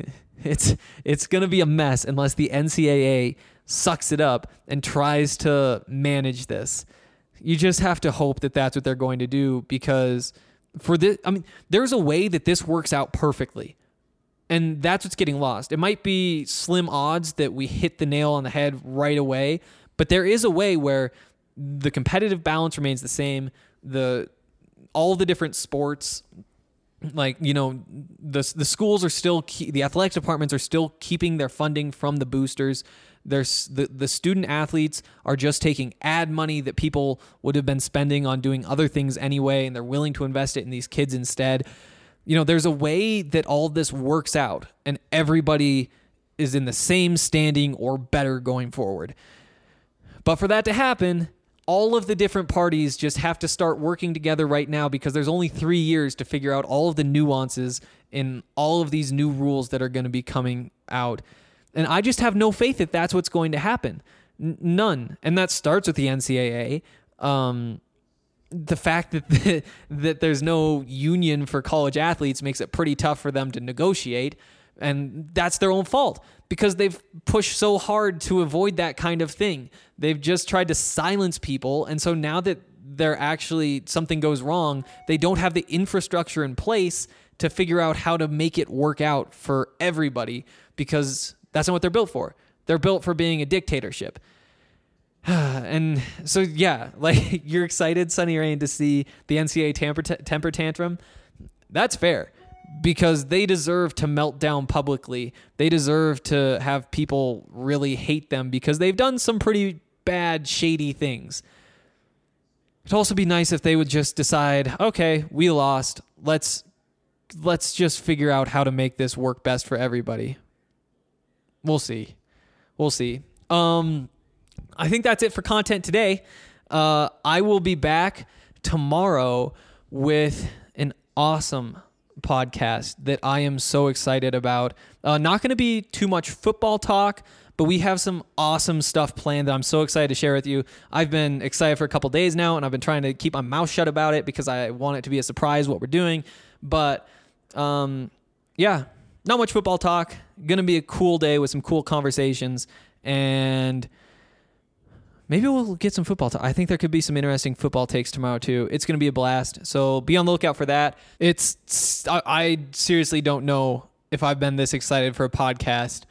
it's it's going to be a mess unless the N C double A sucks it up and tries to manage this. You just have to hope that that's what they're going to do, because for this, I mean, there's a way that this works out perfectly. And that's what's getting lost. It might be slim odds that we hit the nail on the head right away, but there is a way where the competitive balance remains the same. The all the different sports, like, you know, the the schools are still key, the athletic departments are still keeping their funding from the boosters. There's the the student athletes are just taking ad money that people would have been spending on doing other things anyway, and they're willing to invest it in these kids instead. You know, there's a way that all this works out and everybody is in the same standing or better going forward. But for that to happen, all of the different parties just have to start working together right now, because there's only three years to figure out all of the nuances in all of these new rules that are going to be coming out. And I just have no faith that that's what's going to happen. N- none. And that starts with the N C double A. Um, the fact that the, that there's no union for college athletes makes it pretty tough for them to negotiate, and that's their own fault, because they've pushed so hard to avoid that kind of thing. They've just tried to silence people, and so now that they're actually something goes wrong, they don't have the infrastructure in place to figure out how to make it work out for everybody, because that's not what they're built for. They're built for being a dictatorship. And so, yeah, like, you're excited, Sonny Rain, to see the N C double A temper, t- temper tantrum. That's fair, because they deserve to melt down publicly. They deserve to have people really hate them because they've done some pretty bad, shady things. It'd also be nice if they would just decide, okay, we lost. Let's let's just figure out how to make this work best for everybody. We'll see. We'll see. Um... I think that's it for content today. Uh, I will be back tomorrow with an awesome podcast that I am so excited about. Uh, not going to be too much football talk, but we have some awesome stuff planned that I'm so excited to share with you. I've been excited for a couple days now, and I've been trying to keep my mouth shut about it because I want it to be a surprise what we're doing. But um, yeah, not much football talk. Going to be a cool day with some cool conversations, and maybe we'll get some football talk. I think there could be some interesting football takes tomorrow too. It's going to be a blast. So be on the lookout for that. It's I, I seriously don't know if I've been this excited for a podcast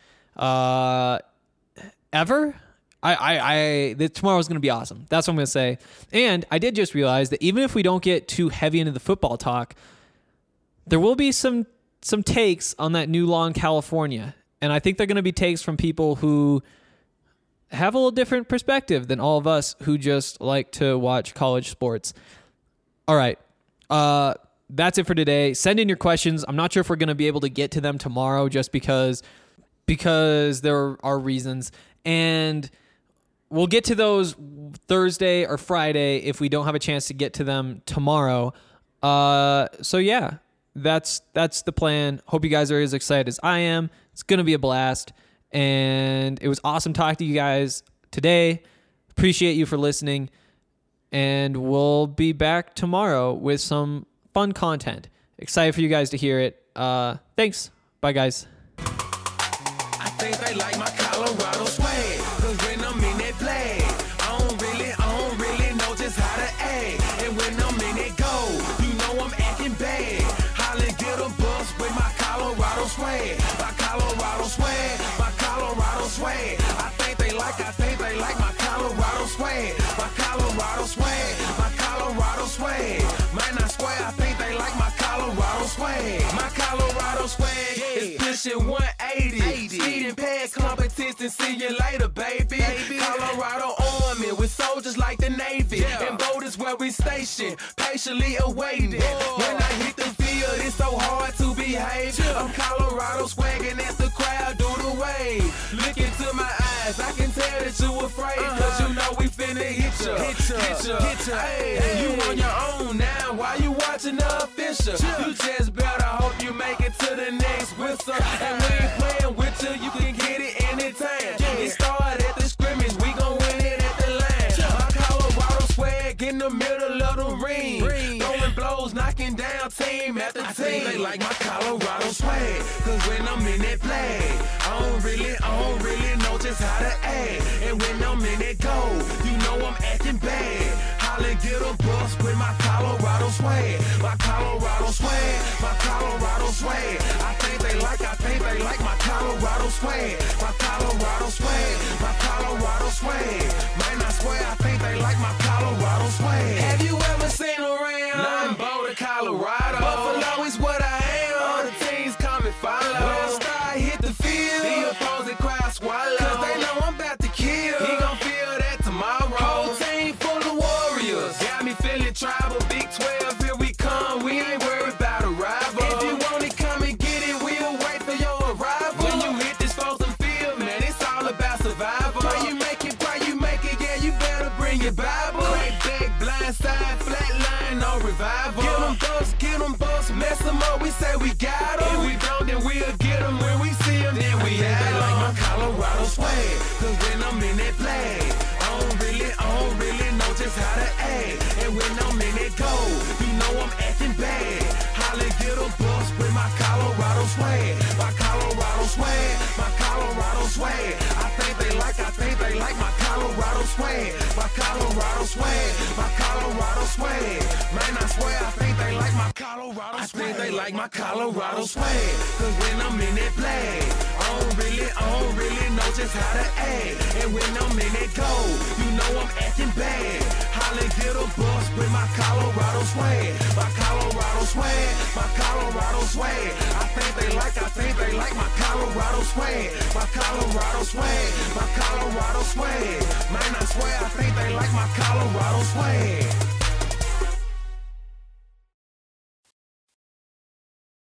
uh, ever. I, I, I the, tomorrow's going to be awesome. That's what I'm going to say. And I did just realize that even if we don't get too heavy into the football talk, there will be some some takes on that new law in California. And I think they're going to be takes from people who have a little different perspective than all of us who just like to watch college sports. All right. Uh, that's it for today. Send in your questions. I'm not sure if we're going to be able to get to them tomorrow just because, because there are reasons. And we'll get to those Thursday or Friday if we don't have a chance to get to them tomorrow. Uh, so yeah, that's, that's the plan. Hope you guys are as excited as I am. It's going to be a blast. And it was awesome talking to you guys today. Appreciate you for listening. And we'll be back tomorrow with some fun content. Excited for you guys to hear it. Uh, thanks. Bye, guys. I think they like my Colorado swag, 'cause when I'm in that play, I don't really, I don't really know just how to act. And when I'm in that go, you know I'm acting bad. Holly get a bus with my Colorado swag, my Colorado swag, my Colorado swag. I think they like, I think they like my Colorado swag. My Colorado swag, my Colorado swag. Man, I swear, I think they like my Colorado swag. My Colorado swag is pushing one eighty. Speeding past competition, see you later, baby. Colorado Army with soldiers like the Navy. And boat is where we station, patiently awaiting. When I hit the field, it's so hard to behave. I'm Colorado swagging as the crowd do the wave. Look into my eyes, I can tell that you afraid. Cause you know we finna hit ya, hit ya, hit ya, hit ya. Hey, you on your own now, why you watching the official? You just better hope you make it to the next whistle. And we ain't playing with you, you can get it anytime. It started at the scrimmage, we gon' win it at the line. My Colorado swag in the middle of the ring. Throwing blows, knocking down team after team. I think they like my Colorado swag. Cause when I'm in that play, I don't really, I don't really know just how to act. And when I'm in that goal, you know I'm acting bad. Holla, get a bus with my Colorado swag. My Colorado swag, my Colorado swag. I think they like, I think they like my Colorado swag. My Colorado swag, my Colorado swag. Man, I swear, I think they like my Colorado swag. Have you ever seen around? Nothing Boulder, Colorado. Buffalo is what I am. All the teams come and follow. When I start hit the field, the opposing crowd swallow. Cause they know I'm about to kill. He gon' feel that tomorrow. Whole team full of warriors. Got me feeling tribal. Big twelve, here we come. We ain't worried about a rival. If you want it, come and get it. We'll wait for your arrival. When you hit this frozen field, man, it's all about survival. Pray you make it, pray you make it. Yeah, you better bring your Bible. Crack back, blind side, flat line, no revival. Get them bucks, get them bucks, mess them up. We say we got them. If we don't, then we'll get them. When we see them, then we have them. Like my Colorado swag. Cause when I'm in that flag, I don't really, I don't really know just how to act. And when I'm in that goal, you know I'm acting bad. Holla, get a bus with my Colorado swag. My Colorado swag, my Colorado swag. I think they like, I think they like my Colorado swag. My Colorado swag, my Colorado swag. Man, I swear, I think they like my Colorado swag. I think they like my Colorado swag. Cause when I'm in that flag, I don't really, I don't really know just how to act. And when I'm in that goal, you know I'm acting bad. Holla, get a bus with my Colorado swag. My Colorado swag, my Colorado swag. I think they like, I think they like my Colorado swag. My Colorado swag, my Colorado swag. Man, I swear, I think they like my Colorado swag.